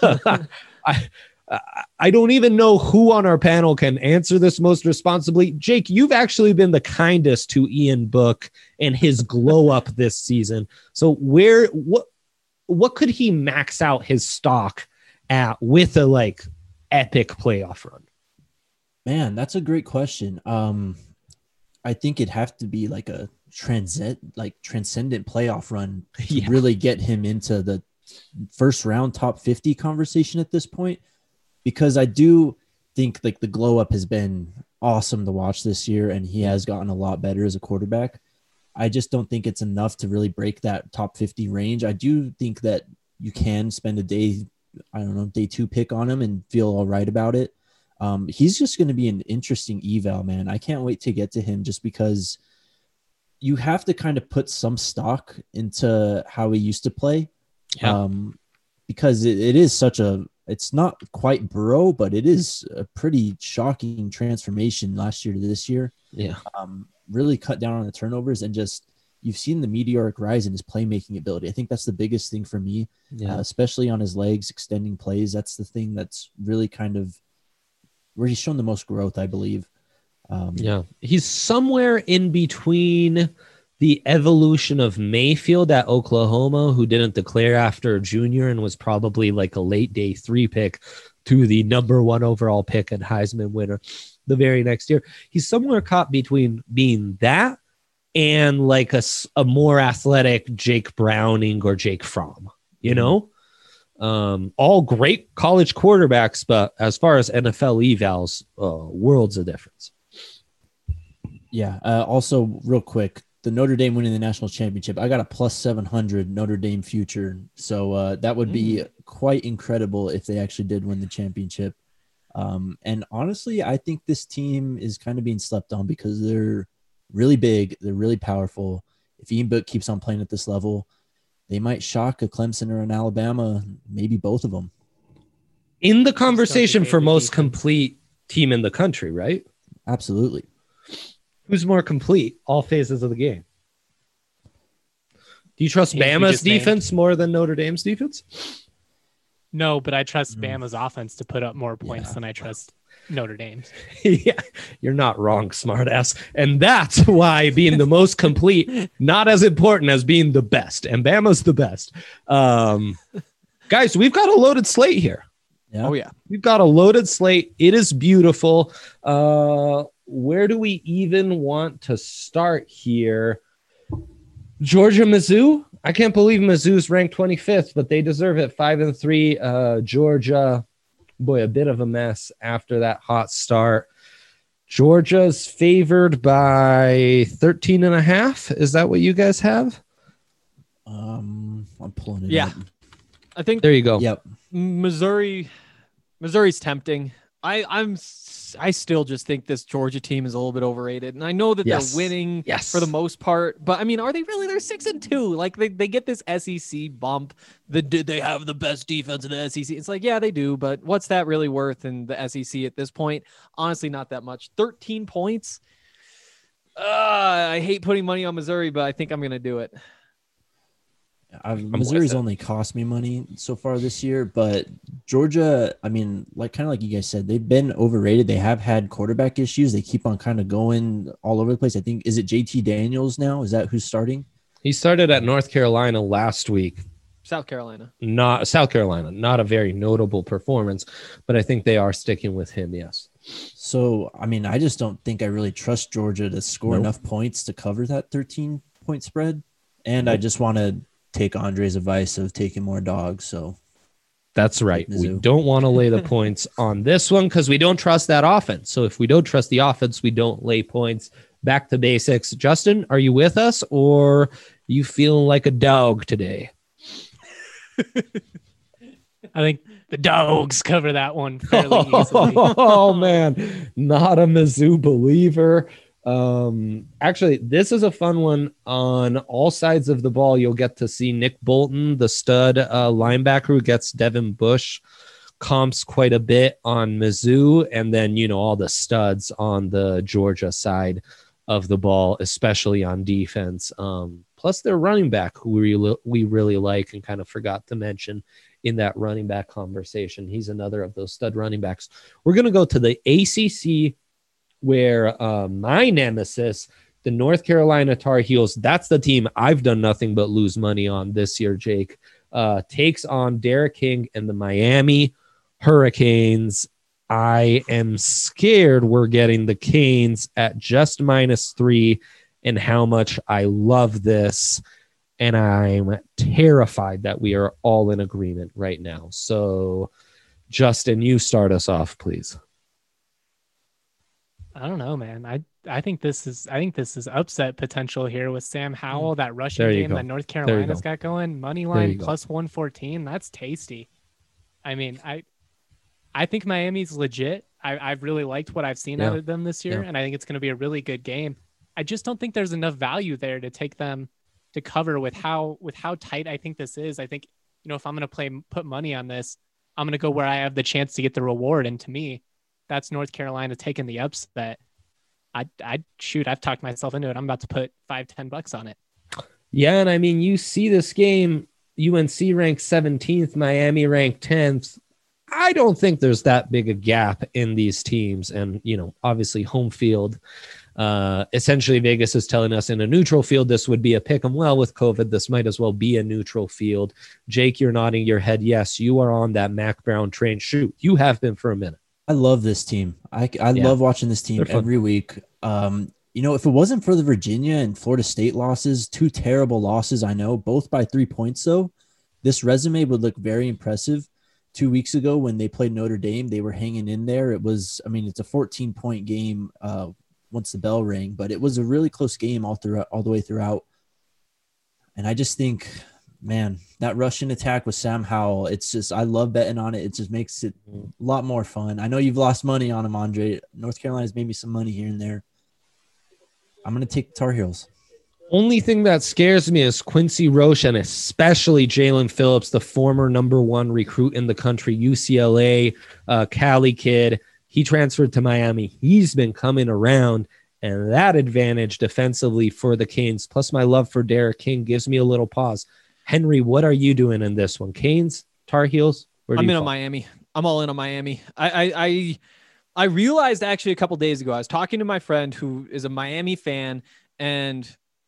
I, I don't even know who on our panel can answer this most responsibly. Jake, you've actually been the kindest to Ian Book and his glow up this season. So where, what, what could he max out his stock at with a like epic playoff run? Man, that's a great question. Um, I think it'd have to be like a transcend, like transcendent playoff run to Yeah. really get him into the first round top fifty conversation at this point. Because I do think like the glow up has been awesome to watch this year, and he has gotten a lot better as a quarterback. I just don't think it's enough to really break that top fifty range. I do think that you can spend a day, I don't know, day two pick on him and feel all right about it. Um, he's just going to be an interesting eval, man. I can't wait to get to him just because you have to kind of put some stock into how he used to play. Yeah. Um, because it, it is such a, it's not quite Burrow, but it is a pretty shocking transformation last year to this year. Yeah. Um, really cut down on the turnovers, and just, you've seen the meteoric rise in his playmaking ability. I think that's the biggest thing for me, Yeah. uh, especially on his legs, extending plays. That's the thing that's really kind of where he's shown the most growth, I believe. Um, Yeah. He's somewhere in between the evolution of Mayfield at Oklahoma, who didn't declare after a junior and was probably like a late day three pick, to the number one overall pick and Heisman winner the very next year. He's somewhere caught between being that and like a, s- a more athletic Jake Browning or Jake Fromm, you know? Um, all great college quarterbacks, but as far as N F L evals, uh, worlds of difference. Yeah. Uh, also, real quick, the Notre Dame winning the national championship, I got a plus seven hundred Notre Dame future. So uh, that would be quite incredible if they actually did win the championship. Um, and honestly, I think this team is kind of being slept on because they're really big. They're really powerful. If Ian Book keeps on playing at this level, they might shock a Clemson or an Alabama, maybe both of them. In the conversation for Daily most defense. complete team in the country, right? Absolutely. Who's more complete all phases of the game? Do you trust Teams we Bama's just named. defense more than Notre Dame's defense? No, but I trust Mm. Bama's offense to put up more points Yeah. than I trust Notre Dame's. Yeah, you're not wrong, smartass. And that's why being the most complete, not as important as being the best. And Bama's the best. Um, guys, we've got a loaded slate here. Yeah. Oh yeah. We've got a loaded slate. It is beautiful. Uh, where do we even want to start here? Georgia, Mizzou. I can't believe Mizzou's ranked twenty-fifth, but they deserve it. Five and three. Uh, Georgia, boy, a bit of a mess after that hot start. Georgia's favored by thirteen and a half. Is that what you guys have? Um, I'm pulling it Yeah. up. I think There you go. Yep. Missouri, Missouri's tempting. I, I'm, s- I still just think this Georgia team is a little bit overrated, and I know that Yes. they're winning Yes. for the most part. But I mean, are they really? They're six and two. Like they, they get this S E C bump. The did they have the best defense in the S E C? It's like, yeah, they do, but what's that really worth in the S E C at this point? Honestly, not that much. Thirteen points. Uh, I hate putting money on Missouri, but I think I'm gonna do it. I've, with Missouri's it. only cost me money so far this year, but Georgia, I mean, like kind of like you guys said, they've been overrated. They have had quarterback issues. They keep on kind of going all over the place. I think, is it J T Daniels now? Is that who's starting? He started at North Carolina last week. South Carolina. Not South Carolina, not a very notable performance, but I think they are sticking with him. Yes. So, I mean, I just don't think I really trust Georgia to score Nope. enough points to cover that thirteen point spread. And I just want to take Andre's advice of taking more dogs. So, That's right. We Mizzou. don't want to lay the points on this one because we don't trust that offense. So if we don't trust the offense, we don't lay points. Back to basics. Justin, are you with us or you feeling like a dog today? I think the dogs cover that one fairly easily. Oh man, not a Mizzou believer. Um, actually, this is a fun one on all sides of the ball. You'll get to see Nick Bolton, the stud uh, linebacker who gets Devin Bush comps quite a bit on Mizzou, and then you know all the studs on the Georgia side of the ball, especially on defense. Um, plus their running back, who we really, we really like and kind of forgot to mention in that running back conversation. He's another of those stud running backs. We're going to go to the A C C, where uh, my nemesis, the North Carolina Tar Heels, that's the team I've done nothing but lose money on this year, Jake, uh, takes on Derek King and the Miami Hurricanes. I am scared we're getting the Canes at just minus three, and how much I love this. And I'm terrified that we are all in agreement right now. So, Justin, you start us off, please. I don't know, man. I I think this is I think this is upset potential here with Sam Howell. That rushing There you game go. that North There you Carolina's go. got going, money you line go. plus one fourteen. That's tasty. I mean, I I think Miami's legit. I I've really liked what I've seen Yeah. out of them this year, Yeah. and I think it's going to be a really good game. I just don't think there's enough value there to take them to cover with how with how tight I think this is. I think, you know, if I'm going to play put money on this, I'm going to go where I have the chance to get the reward, and to me, that's North Carolina taking the upset. I I shoot, I've talked myself into it. I'm about to put five, ten bucks on it. Yeah, and I mean, you see this game, U N C ranked seventeenth, Miami ranked tenth. I don't think there's that big a gap in these teams. And, you know, obviously home field, uh, essentially Vegas is telling us in a neutral field, this would be a pick 'em. Well, with COVID, this might as well be a neutral field. Jake, you're nodding your head. Yes, you are on that Mac Brown train. Shoot, you have been for a minute. I love this team. I, I Yeah. love watching this team They're fun. every week. Um, you know, if it wasn't for the Virginia and Florida State losses, two terrible losses, I know, both by three points, though, this resume would look very impressive. Two weeks ago when they played Notre Dame, they were hanging in there. It was, I mean, it's a fourteen-point game uh, once the bell rang, but it was a really close game all throughout, all the way throughout. And I just think, man, that Russian attack with Sam Howell, it's just, I love betting on it. It just makes it a lot more fun. I know you've lost money on him, Andre. North Carolina's made me some money here and there. I'm going to take the Tar Heels. Only thing that scares me is Quincy Roche and especially Jalen Phillips, the former number one recruit in the country, U C L A, uh, Cali kid. He transferred to Miami. He's been coming around, and that advantage defensively for the Canes, plus my love for Derek King, gives me a little pause. Henry, what are you doing in this one? Canes, Tar Heels? Where do I'm you in on fall? Miami. I'm all in on Miami. I, I I I realized actually a couple days ago, I was talking to my friend who is a Miami fan, and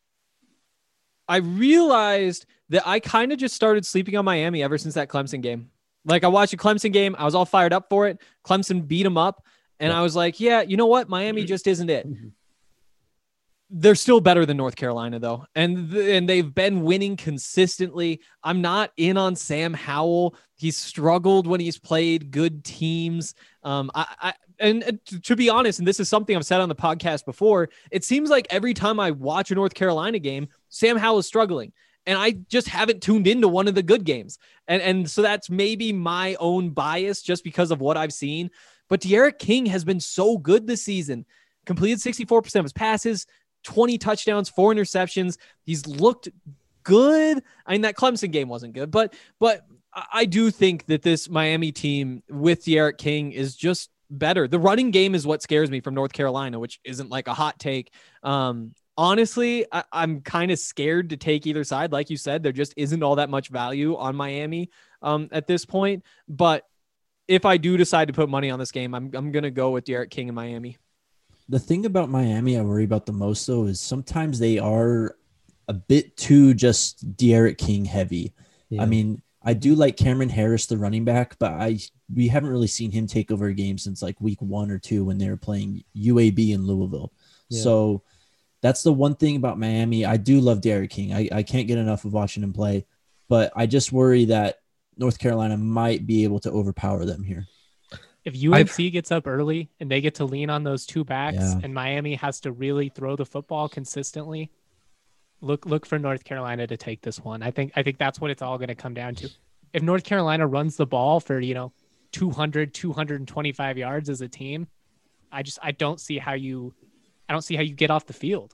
I realized that I kind of just started sleeping on Miami ever since that Clemson game. Like I watched a Clemson game. I was all fired up for it. Clemson beat them up. And Yeah. I was like, yeah, you know what? Miami just isn't it. they're still better than North Carolina though. And, th- and they've been winning consistently. I'm not in on Sam Howell. He's struggled when he's played good teams. Um, I, I and uh, to be honest, and this is something I've said on the podcast before, it seems like every time I watch a North Carolina game, Sam Howell is struggling. And I just haven't tuned into one of the good games. And, and so that's maybe my own bias just because of what I've seen. But De'Aaron King has been so good this season. Completed sixty-four percent of his passes, twenty touchdowns, four interceptions. He's looked good. I mean, that Clemson game wasn't good, but but I do think that this Miami team with De'Aaron King is just better. The running game is what scares me from North Carolina, which isn't like a hot take. Um, honestly, I, I'm kind of scared to take either side. Like you said, there just isn't all that much value on Miami um, at this point. But if I do decide to put money on this game, I'm I'm gonna go with De'Aaron King in Miami. The thing about Miami I worry about the most, though, is sometimes they are a bit too just De'Aaron King heavy. Yeah. I mean, I do like Cameron Harris, the running back, but I we haven't really seen him take over a game since like week one or two when they were playing U A B in Louisville. Yeah. So that's the one thing about Miami. I do love De'Aaron King. I, I can't get enough of watching him play, but I just worry that North Carolina might be able to overpower them here. If U N C I've, gets up early and they get to lean on those two backs yeah. and Miami has to really throw the football consistently, look look for North Carolina to take this one. I think I think that's what it's all going to come down to. If North Carolina runs the ball for, you know, two hundred, two twenty-five yards as a team, I just I don't see how you I don't see how you get off the field.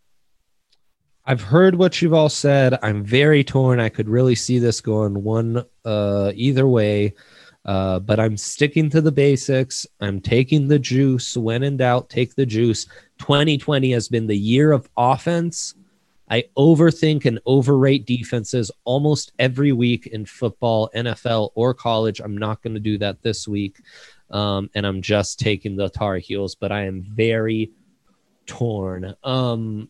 I've heard what you've all said. I'm very torn. I could really see this going one uh, either way. Uh, but I'm sticking to the basics. I'm taking the juice. When in doubt, take the juice. twenty twenty has been the year of offense. I overthink and overrate defenses almost every week in football, N F L, or college. I'm not going to do that this week. Um, and I'm just taking the Tar Heels, but I am very torn. Um,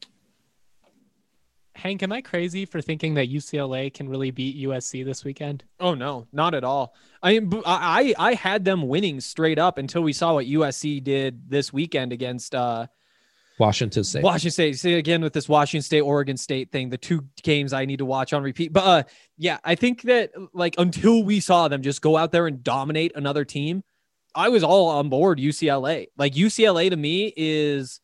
Hank, am I crazy for thinking that U C L A can really beat U S C this weekend? Oh no, not at all. I I I had them winning straight up until we saw what U S C did this weekend against uh, Washington State. Washington State. See again with this Washington State Oregon State thing, the two games I need to watch on repeat. But uh, yeah, I think that like until we saw them just go out there and dominate another team, I was all on board U C L A. Like U C L A to me is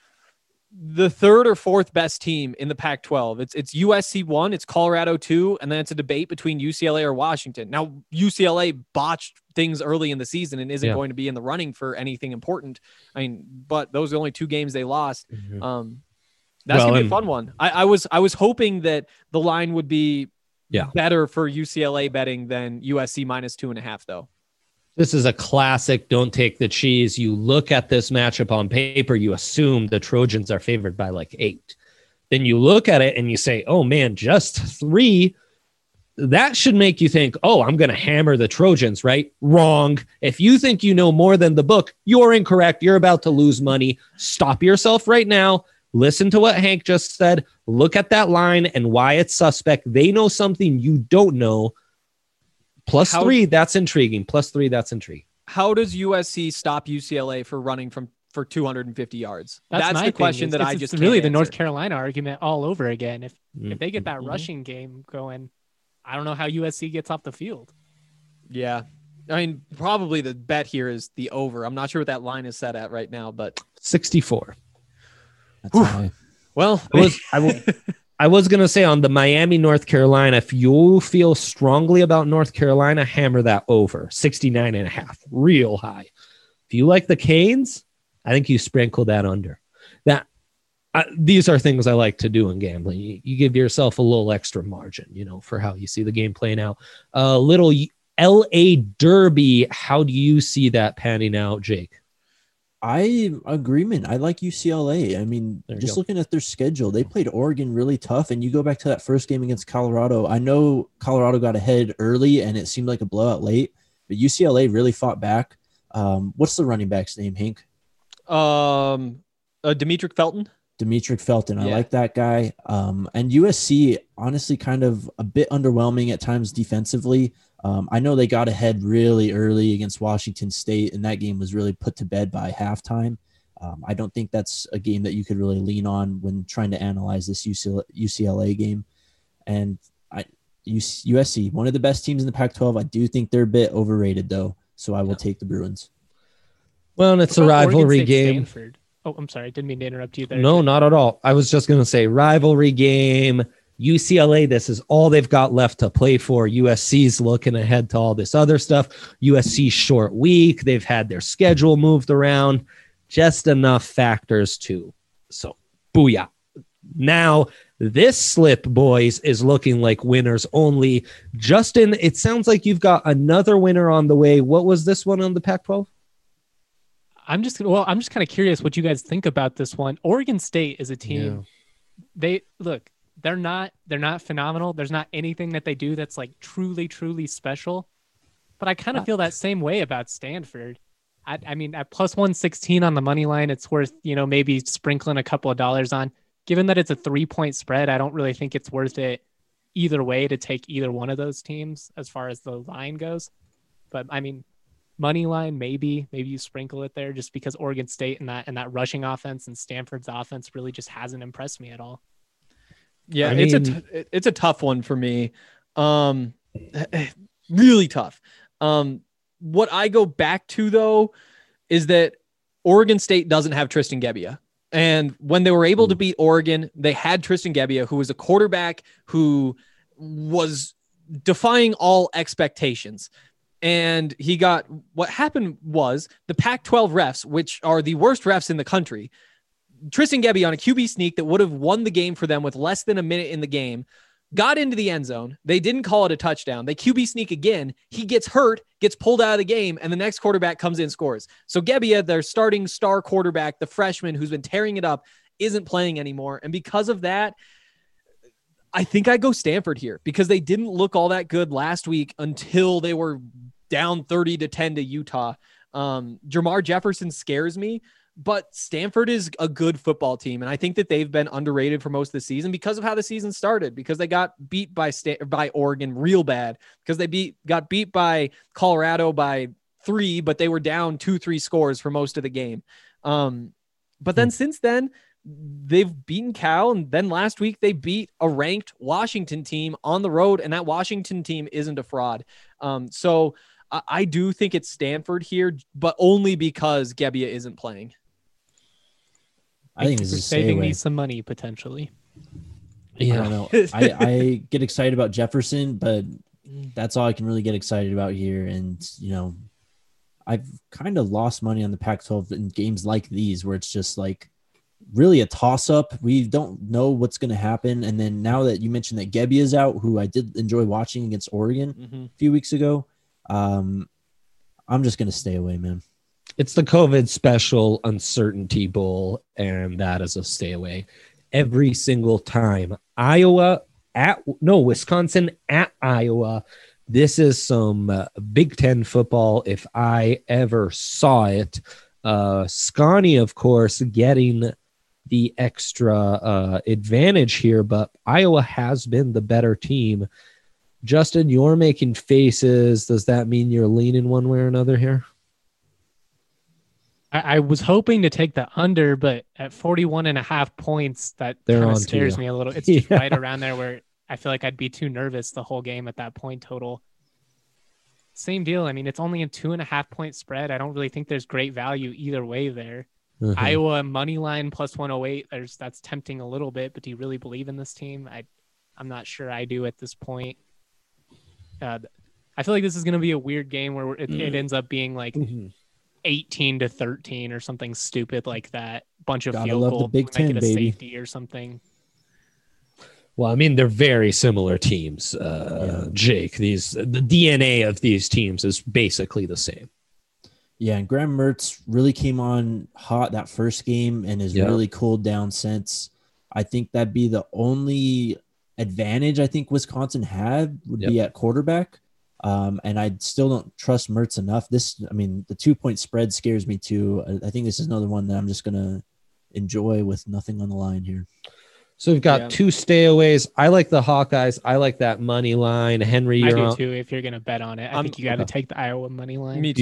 the third or fourth best team in the Pac twelve. It's it's U S C one, it's Colorado two, and then it's a debate between U C L A or Washington. Now, U C L A botched things early in the season and isn't yeah. going to be in the running for anything important. I mean, but those are the only two games they lost. Mm-hmm. Um, that's well, gonna be and- a fun one. I, I was I was hoping that the line would be Yeah. better for U C L A betting than U S C minus two and a half, though. This is a classic. Don't take the cheese. You look at this matchup on paper, you assume the Trojans are favored by like eight. Then you look at it and you say, oh man, just three. That should make you think, oh, I'm going to hammer the Trojans, right? Wrong. If you think you know more than the book, you're incorrect. You're about to lose money. Stop yourself right now. Listen to what Hank just said. Look at that line and why it's suspect. They know something you don't know. Plus How- three, that's intriguing. Plus three, that's intriguing. How does U S C stop U C L A for running from for two hundred fifty yards? That's, That's, my the thing. question It's- that I it's- just it's really can't the North answer. Carolina argument all over again. If if they get that Mhm. rushing game going, I don't know how U S C gets off the field. Yeah. I mean, probably the bet here is the over. I'm not sure what that line is set at right now, but sixty-four. That's high. well, I was, I, w- I was going to say on the Miami, North Carolina, if you feel strongly about North Carolina, hammer that over sixty-nine and a half, real high. If you like the Canes, I think you sprinkle that under. That I, these are things I like to do in gambling. You, you give yourself a little extra margin, you know, for how you see the game playing out. A uh, little L A Derby. How do you see that panning out, Jake? I agreement. I like U C L A. I mean, There you just go. looking at their schedule, they played Oregon really tough. And you go back to that first game against Colorado. I know Colorado got ahead early and it seemed like a blowout late, but U C L A really fought back. Um, what's the running back's name, Hank? um, uh, Demetric Felton. Demetric Felton. I Yeah. like that guy. Um, and U S C, honestly, kind of a bit underwhelming at times defensively. Um, I know they got ahead really early against Washington State, and that game was really put to bed by halftime. Um, I don't think that's a game that you could really lean on when trying to analyze this U C L A game. And I, U S C, one of the best teams in the Pac twelve. I do think they're a bit overrated, though. So I will yeah. take the Bruins. Well, and it's a rivalry game. Stanford? Oh, I'm sorry. I didn't mean to interrupt you there. No, not at all. I was just going to say rivalry game. U C L A, this is all they've got left to play for. U S C's looking ahead to all this other stuff. U S C short week. They've had their schedule moved around. Just enough factors too. So, booyah. Now, this slip, boys, is looking like winners only. Justin, it sounds like you've got another winner on the way. What was this one on the Pac twelve? I'm just well, I'm just kind of curious what you guys think about this one. Oregon State is a team. Yeah. They look, they're not they're not phenomenal. There's not anything that they do that's like truly, truly special. But I kind of feel that same way about Stanford. I, I mean, at plus one sixteen on the money line, it's worth, you know, maybe sprinkling a couple of dollars on. Given that it's a three-point spread, I don't really think it's worth it either way to take either one of those teams as far as the line goes. But, I mean, money line, maybe. Maybe you sprinkle it there just because Oregon State and that and that rushing offense and Stanford's offense really just hasn't impressed me at all. Yeah, I it's mean, a t- it's a tough one for me. Um, really tough. Um, what I go back to, though, is that Oregon State doesn't have Tristan Gebbia. And when they were able to beat Oregon, they had Tristan Gebbia, who was a quarterback who was defying all expectations. And he got, what happened was the Pac twelve refs, which are the worst refs in the country, Tristan Gebbia on a Q B sneak that would have won the game for them with less than a minute in the game, got into the end zone. They didn't call it a touchdown. They Q B sneak again. He gets hurt, gets pulled out of the game, and the next quarterback comes in, scores. So Gebbia, their starting star quarterback, the freshman who's been tearing it up, isn't playing anymore. And because of that, I think I go Stanford here because they didn't look all that good last week until they were down thirty to ten to Utah. Um, Jermar Jefferson scares me. But Stanford is a good football team, and I think that they've been underrated for most of the season because of how the season started, because they got beat by Stan- by Oregon real bad, because they beat got beat by Colorado by three, but they were down two, three scores for most of the game. Um, but then mm. since then, they've beaten Cal, and then last week they beat a ranked Washington team on the road, and that Washington team isn't a fraud. Um, so I, I do think it's Stanford here, but only because Gebbia isn't playing. I think this is saving me some money potentially. Yeah, I don't know. I, I get excited about Jefferson, but that's all I can really get excited about here. And you know, I've kind of lost money on the Pac twelve in games like these, where it's just like really a toss up. We don't know what's going to happen. And then now that you mentioned that Gebbia is out, who I did enjoy watching against Oregon mm-hmm. a few weeks ago, um, I'm just going to stay away, man. It's the COVID special uncertainty bowl, and that is a stay away every single time. Iowa at no Wisconsin at Iowa. This is some uh, Big Ten football if I ever saw it. Uh, Scotty, of course, getting the extra uh, advantage here, but Iowa has been the better team. Justin, you're making faces. Does that mean you're leaning one way or another here? I, I was hoping to take the under, but at forty-one and a half points, that kind of scares me a little. It's just yeah. right around there where I feel like I'd be too nervous the whole game at that point total. Same deal. I mean, it's only a two and a half point spread. I don't really think there's great value either way there. Mm-hmm. Iowa money line plus one oh eight. There's that's tempting a little bit, but do you really believe in this team? I, I'm not sure I do at this point. Uh, I feel like this is going to be a weird game where it, mm. it ends up being like mm-hmm. eighteen to thirteen or something stupid like that. Bunch of Gotta field love goal, the Big Ten, make it a baby. safety or something. Well, I mean, they're very similar teams, uh, yeah. Jake. These the D N A of these teams is basically the same. Yeah, and Graham Mertz really came on hot that first game and has yeah. really cooled down since. I think that'd be the only advantage I think Wisconsin had would yep. be at quarterback. Um, and I still don't trust Mertz enough. This, I mean, the two point spread scares me too. I, I think this is another one that I'm just going to enjoy with nothing on the line here. So we've got yeah. two stayaways. I like the Hawkeyes. I like that money line. Henry, you're I do on. too. If you're going to bet on it, I um, think you got to okay. take the Iowa money line. Me too. Beautiful.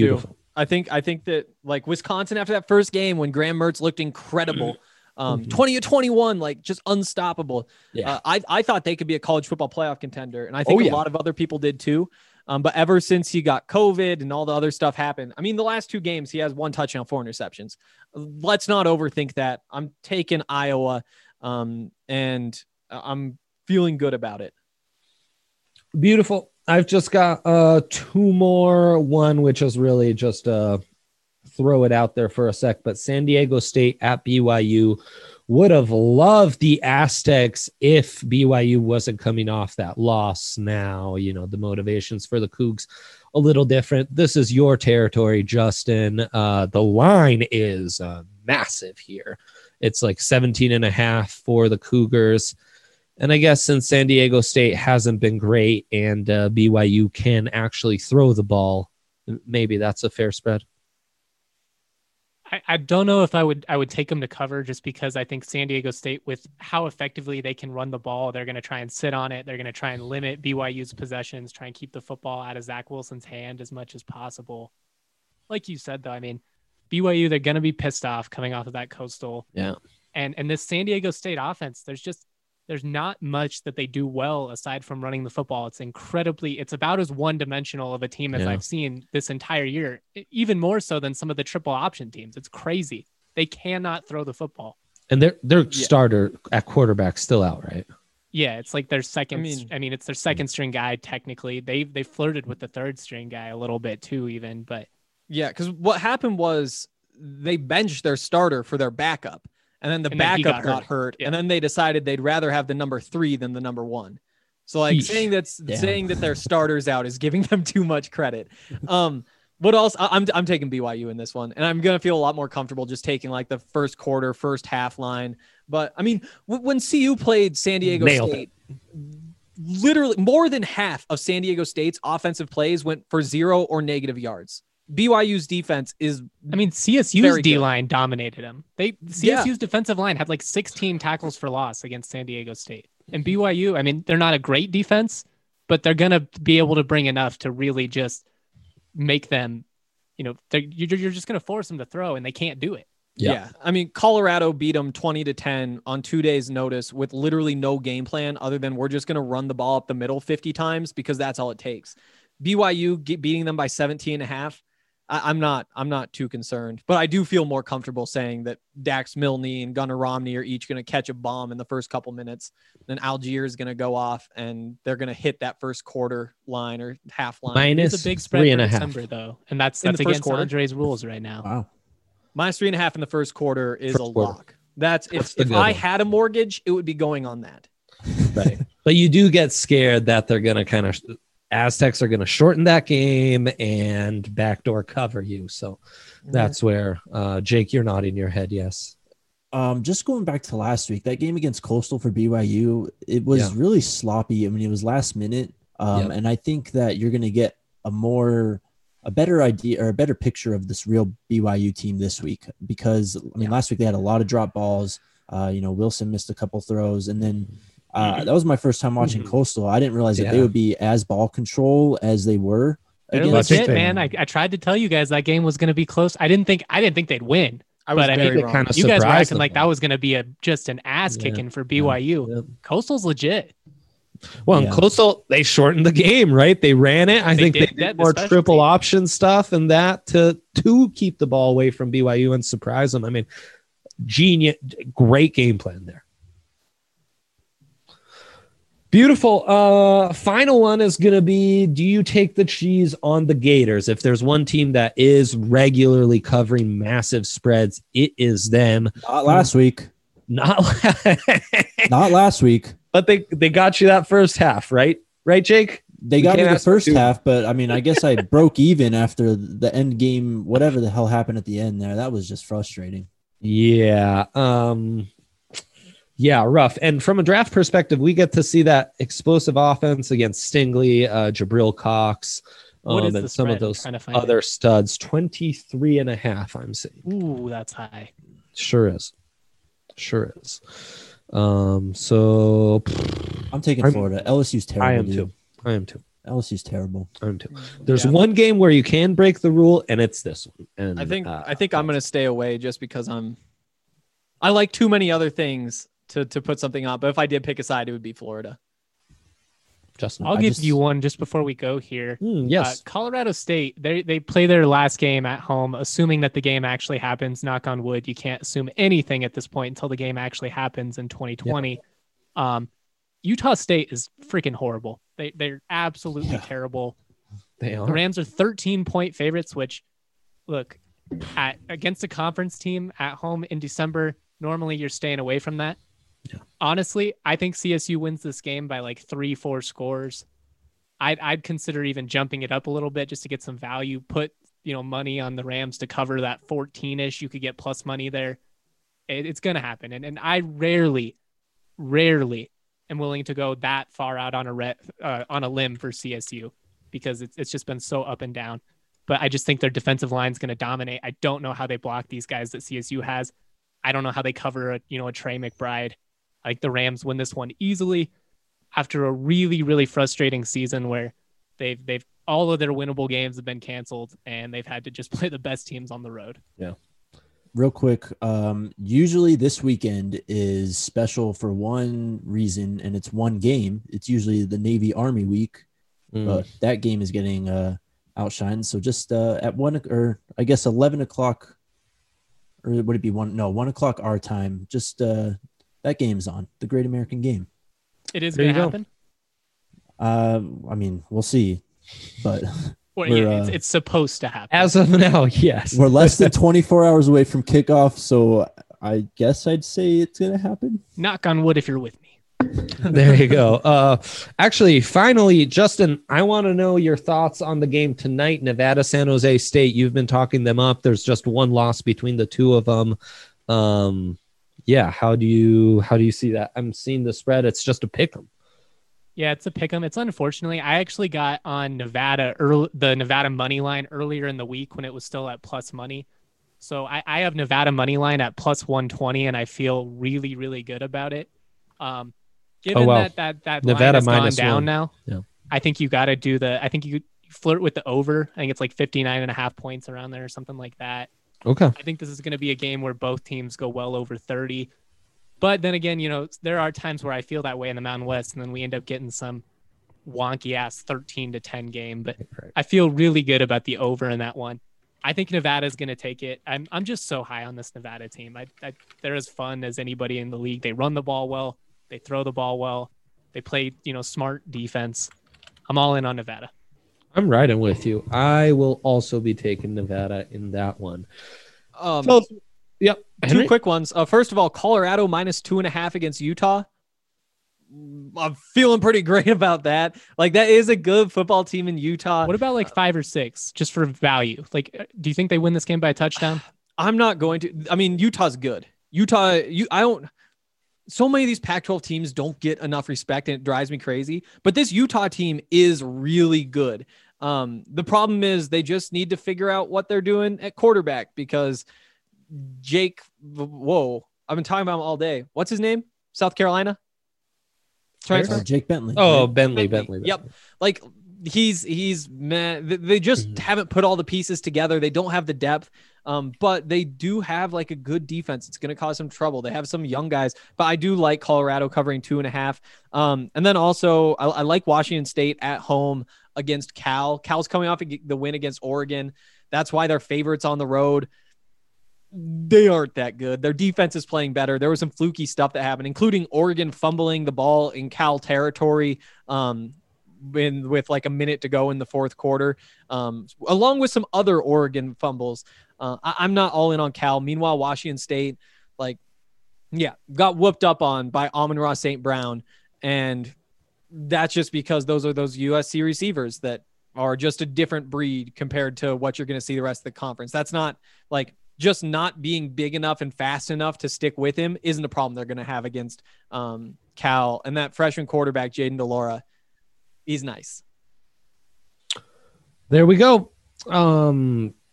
I think I think that like Wisconsin after that first game when Graham Mertz looked incredible, um, Mhm. twenty to twenty-one, like just unstoppable. Yeah. Uh, I I thought they could be a college football playoff contender, and I think Oh, yeah. a lot of other people did too. Um, but ever since he got COVID and all the other stuff happened, I mean, the last two games he has one touchdown, four interceptions. Let's not overthink that. I'm taking Iowa, um, and I'm feeling good about it. Beautiful. I've just got uh two more. One which is really just uh throw it out there for a sec, but San Diego State at B Y U. Would have loved the Aztecs if B Y U wasn't coming off that loss. Now, you know, the motivations for the Cougs a little different. This is your territory, Justin. Uh, the line is uh, massive here. It's like seventeen and a half for the Cougars. And I guess since San Diego State hasn't been great and uh, B Y U can actually throw the ball, maybe that's a fair spread. I, I don't know if I would I would take them to cover just because I think San Diego State, with how effectively they can run the ball, they're going to try and sit on it. They're going to try and limit B Y U's possessions, try and keep the football out of Zach Wilson's hand as much as possible. Like you said, though, I mean, B Y U, they're going to be pissed off coming off of that Coastal. Yeah. And and this San Diego State offense, there's just there's not much that they do well aside from running the football. It's incredibly, it's about as one-dimensional of a team as Yeah. I've seen this entire year, e- even more so than some of the triple option teams. It's crazy. They cannot throw the football. And their their Yeah. starter at quarterback still out, right? Yeah, it's like their second. I I mean, mean- it's their second string guy. Technically, they they flirted with the third string guy a little bit too, even. But Yeah, because what happened was they benched their starter for their backup, and then the And then he backup got got hurt. hurt, Yeah. and then they decided they'd rather have the number three than the number one. So like Yeesh. saying that's Damn. saying that their starters out is giving them too much credit. Um, what else? I, I'm I'm taking B Y U in this one, and I'm gonna feel a lot more comfortable just taking like the first quarter, first half line. But I mean, w- when C U played San Diego Nailed State, literally more than half of San Diego State's offensive plays went for zero or negative yards. B Y U's defense is I mean, C S U's Very good. D line dominated them. They C S U's defensive line had like sixteen tackles for loss against San Diego State. And B Y U, I mean, they're not a great defense, but they're gonna be able to bring enough to really just make them, you know, they're- you're you're just gonna force them to throw, and they can't do it. Yeah. Yeah. I mean, Colorado beat them twenty to ten on two days' notice with literally no game plan other than we're just going to run the ball up the middle fifty times because that's all it takes. B Y U get, beating them by seventeen and a half. I, I'm not, I'm not too concerned, but I do feel more comfortable saying that Dax Milne and Gunnar Romney are each going to catch a bomb in the first couple minutes. Then Algier is going to go off and they're going to hit that first quarter line or half line. Minus It's a big spread three for and a half. December, though, and that's In that's the first against quarter? Andre's rules right now. Wow. Minus three and a half in the first quarter is First a quarter. lock. That's That's if, the if good I one. had a mortgage, it would be going on that. Right. But you do get scared that they're going to kind of, Aztecs are going to shorten that game and backdoor cover you. So that's where, uh, Jake, you're nodding your head. Yes. Um, just going back to last week, that game against Coastal for B Y U, it was Yeah. really sloppy. I mean, it was last minute. Um, Yep. and I think that you're going to get a more, a better idea or a better picture of this real B Y U team this week, because I mean, Yeah. last week they had a lot of drop balls. Uh, you know, Wilson missed a couple throws, and then uh, that was my first time watching Mhm. Coastal. I didn't realize that they Yeah. would be as ball control as they were. They're against- legit, they- man. I, I tried to tell you guys that game was going to be close. I didn't think I didn't think they'd win. I was But I very think it wrong. kind of You guys were surprised acting them. like that was going to be a just an ass Yeah. kicking for B Y U. Yep. Coastal's legit. Well, in Yeah. Coastal, they shortened the game, right? They ran it. I They think did they that, did the more special triple team. option stuff and that to to keep the ball away from B Y U and surprise them. I mean, genius, great game plan there. Beautiful. Uh, final one is going to be, do you take the cheese on the Gators? If there's one team that is regularly covering massive spreads, it is them. Not last week. Not, Not last week. but they, they got you that first half, right? Right, Jake? They We got me can't the ask for first too half, but I mean, I guess I broke even after the end game, whatever the hell happened at the end there. That was just frustrating. Yeah. Um, yeah, rough. And from a draft perspective, we get to see that explosive offense against Stingley, uh, Jabril Cox, What um, is the and some spread? of I'm those trying to find other studs. twenty-three and a half, I'm saying. Ooh, that's high. Sure is. Sure is. Um, so I'm taking I'm- Florida. L S U's terrible. I am dude. too. I am too. L S U's terrible. I'm too. There's Yeah. one game where you can break the rule, and it's this one. And I think uh, I think I'm gonna stay away just because I'm I like too many other things to to put something on. But if I did pick a side, it would be Florida. Justin. I'll I give just- you one just before we go here. Hmm, Uh, yes. Colorado State, they they play their last game at home, assuming that the game actually happens. Knock on wood, you can't assume anything at this point until the game actually happens in twenty twenty. Um, Utah State is freaking horrible. They they're absolutely Yeah. terrible. They The are. Rams are thirteen point favorites, which look at against a conference team at home in December. Normally, you're staying away from that. Yeah. Honestly, I think C S U wins this game by like three, four scores. I'd I'd consider even jumping it up a little bit just to get some value. Put you know money on the Rams to cover that fourteen-ish. You could get plus money there. It, it's gonna happen, and and I rarely, rarely am willing to go that far out on a re, uh, on a limb for C S U because it's it's just been so up and down. But I just think their defensive line is going to dominate. I don't know how they block these guys that C S U has. I don't know how they cover a you know a Trey McBride. Like the Rams win this one easily after a really really frustrating season where they've they've all of their winnable games have been canceled and they've had to just play the best teams on the road. Real quick, um, usually this weekend is special for one reason, and it's one game. It's usually the Navy Army week, Mm. but that game is getting uh, outshined. So just uh, at one or I guess eleven o'clock, or would it be one? No, one o'clock our time. Just uh, that game's on the Great American Game. It is There going to you go. happen. Uh, I mean, we'll see, but Or We're, yeah, it's, uh, it's supposed to happen. As of now, yes. we're less than twenty-four hours away from kickoff. So I guess I'd say it's gonna happen. Knock on wood if you're with me. There you go. Uh, actually, finally, Justin, I want to know your thoughts on the game tonight. Nevada, San Jose State. You've been talking them up. There's just one loss between the two of them. Um, yeah. How do you how do you see that? I'm seeing the spread. It's just a pick 'em. Yeah, it's a pick 'em. It's unfortunately, I actually got on Nevada early, the Nevada money line earlier in the week when it was still at plus money. So I, I have Nevada money line at plus one twenty, and I feel really, really good about it. Um, given Oh, wow. that that that Nevada line has gone minus down one. now, Yeah. I think you got to do the. I think you flirt with the over. I think it's like fifty-nine and a half points around there or something like that. Okay. I think this is going to be a game where both teams go well over thirty. But then again, you know, there are times where I feel that way in the Mountain West, and then we end up getting some wonky ass thirteen to ten game. But Right. I feel really good about the over in that one. I think Nevada's going to take it. I'm I'm just so high on this Nevada team. I, I they're as fun as anybody in the league. They run the ball well. They throw the ball well. They play, you know, smart defense. I'm all in on Nevada. I'm riding with you. I will also be taking Nevada in that one. Um, So, yep. two Henry? quick ones. Uh, first of all, Colorado minus two and a half against Utah. I'm feeling pretty great about that. Like that is a good football team in Utah. What about like five or six, just for value? Like, uh, do you think they win this game by a touchdown? I'm not going to. I mean, Utah's good. Utah. You. I don't. So many of these Pac twelve teams don't get enough respect, and it drives me crazy. But this Utah team is really good. Um, the problem is they just need to figure out what they're doing at quarterback because Jake. Whoa, I've been talking about him all day. What's his name? South Carolina. Transfer? Uh, Jake Bentley. Oh, right? Bentley, Bentley. Bentley. Yep. Like he's he's man. th- They just Mhm. haven't put all the pieces together. They don't have the depth, um, but they do have like a good defense. It's going to cause some trouble. They have some young guys, but I do like Colorado covering two and a half. Um, and then also I, I like Washington State at home against Cal. Cal's coming off the win against Oregon. That's why they're favorites on the road. They aren't that good. Their defense is playing better. There was some fluky stuff that happened, including Oregon fumbling the ball in Cal territory um, in, with like a minute to go in the fourth quarter, um, along with some other Oregon fumbles. Uh, I, I'm not all in on Cal. Meanwhile, Washington State, like, yeah, got whooped up on by Amon-Ra Saint Brown. And that's just because those are those U S C receivers that are just a different breed compared to what you're going to see the rest of the conference. That's not like just not being big enough and fast enough to stick with him isn't a problem they're going to have against um, Cal. And that freshman quarterback, Jaden DeLaura, he's nice. There we go. Um,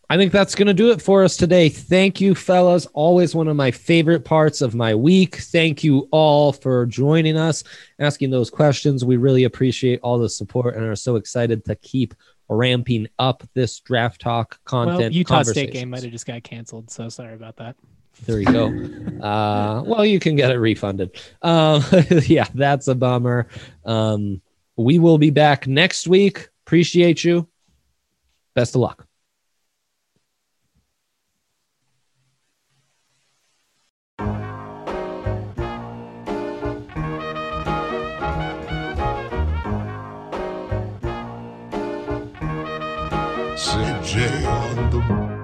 I think that's going to do it for us today. Thank you, fellas. Always one of my favorite parts of my week. Thank you all for joining us, asking those questions. We really appreciate all the support and are so excited to keep ramping up this draft talk content. Well, Utah State game might have just got canceled, so sorry about that. There you go. Uh, well, you can get it refunded. Um, yeah, that's a bummer. Um, we will be back next week. Appreciate you. Best of luck. C J on the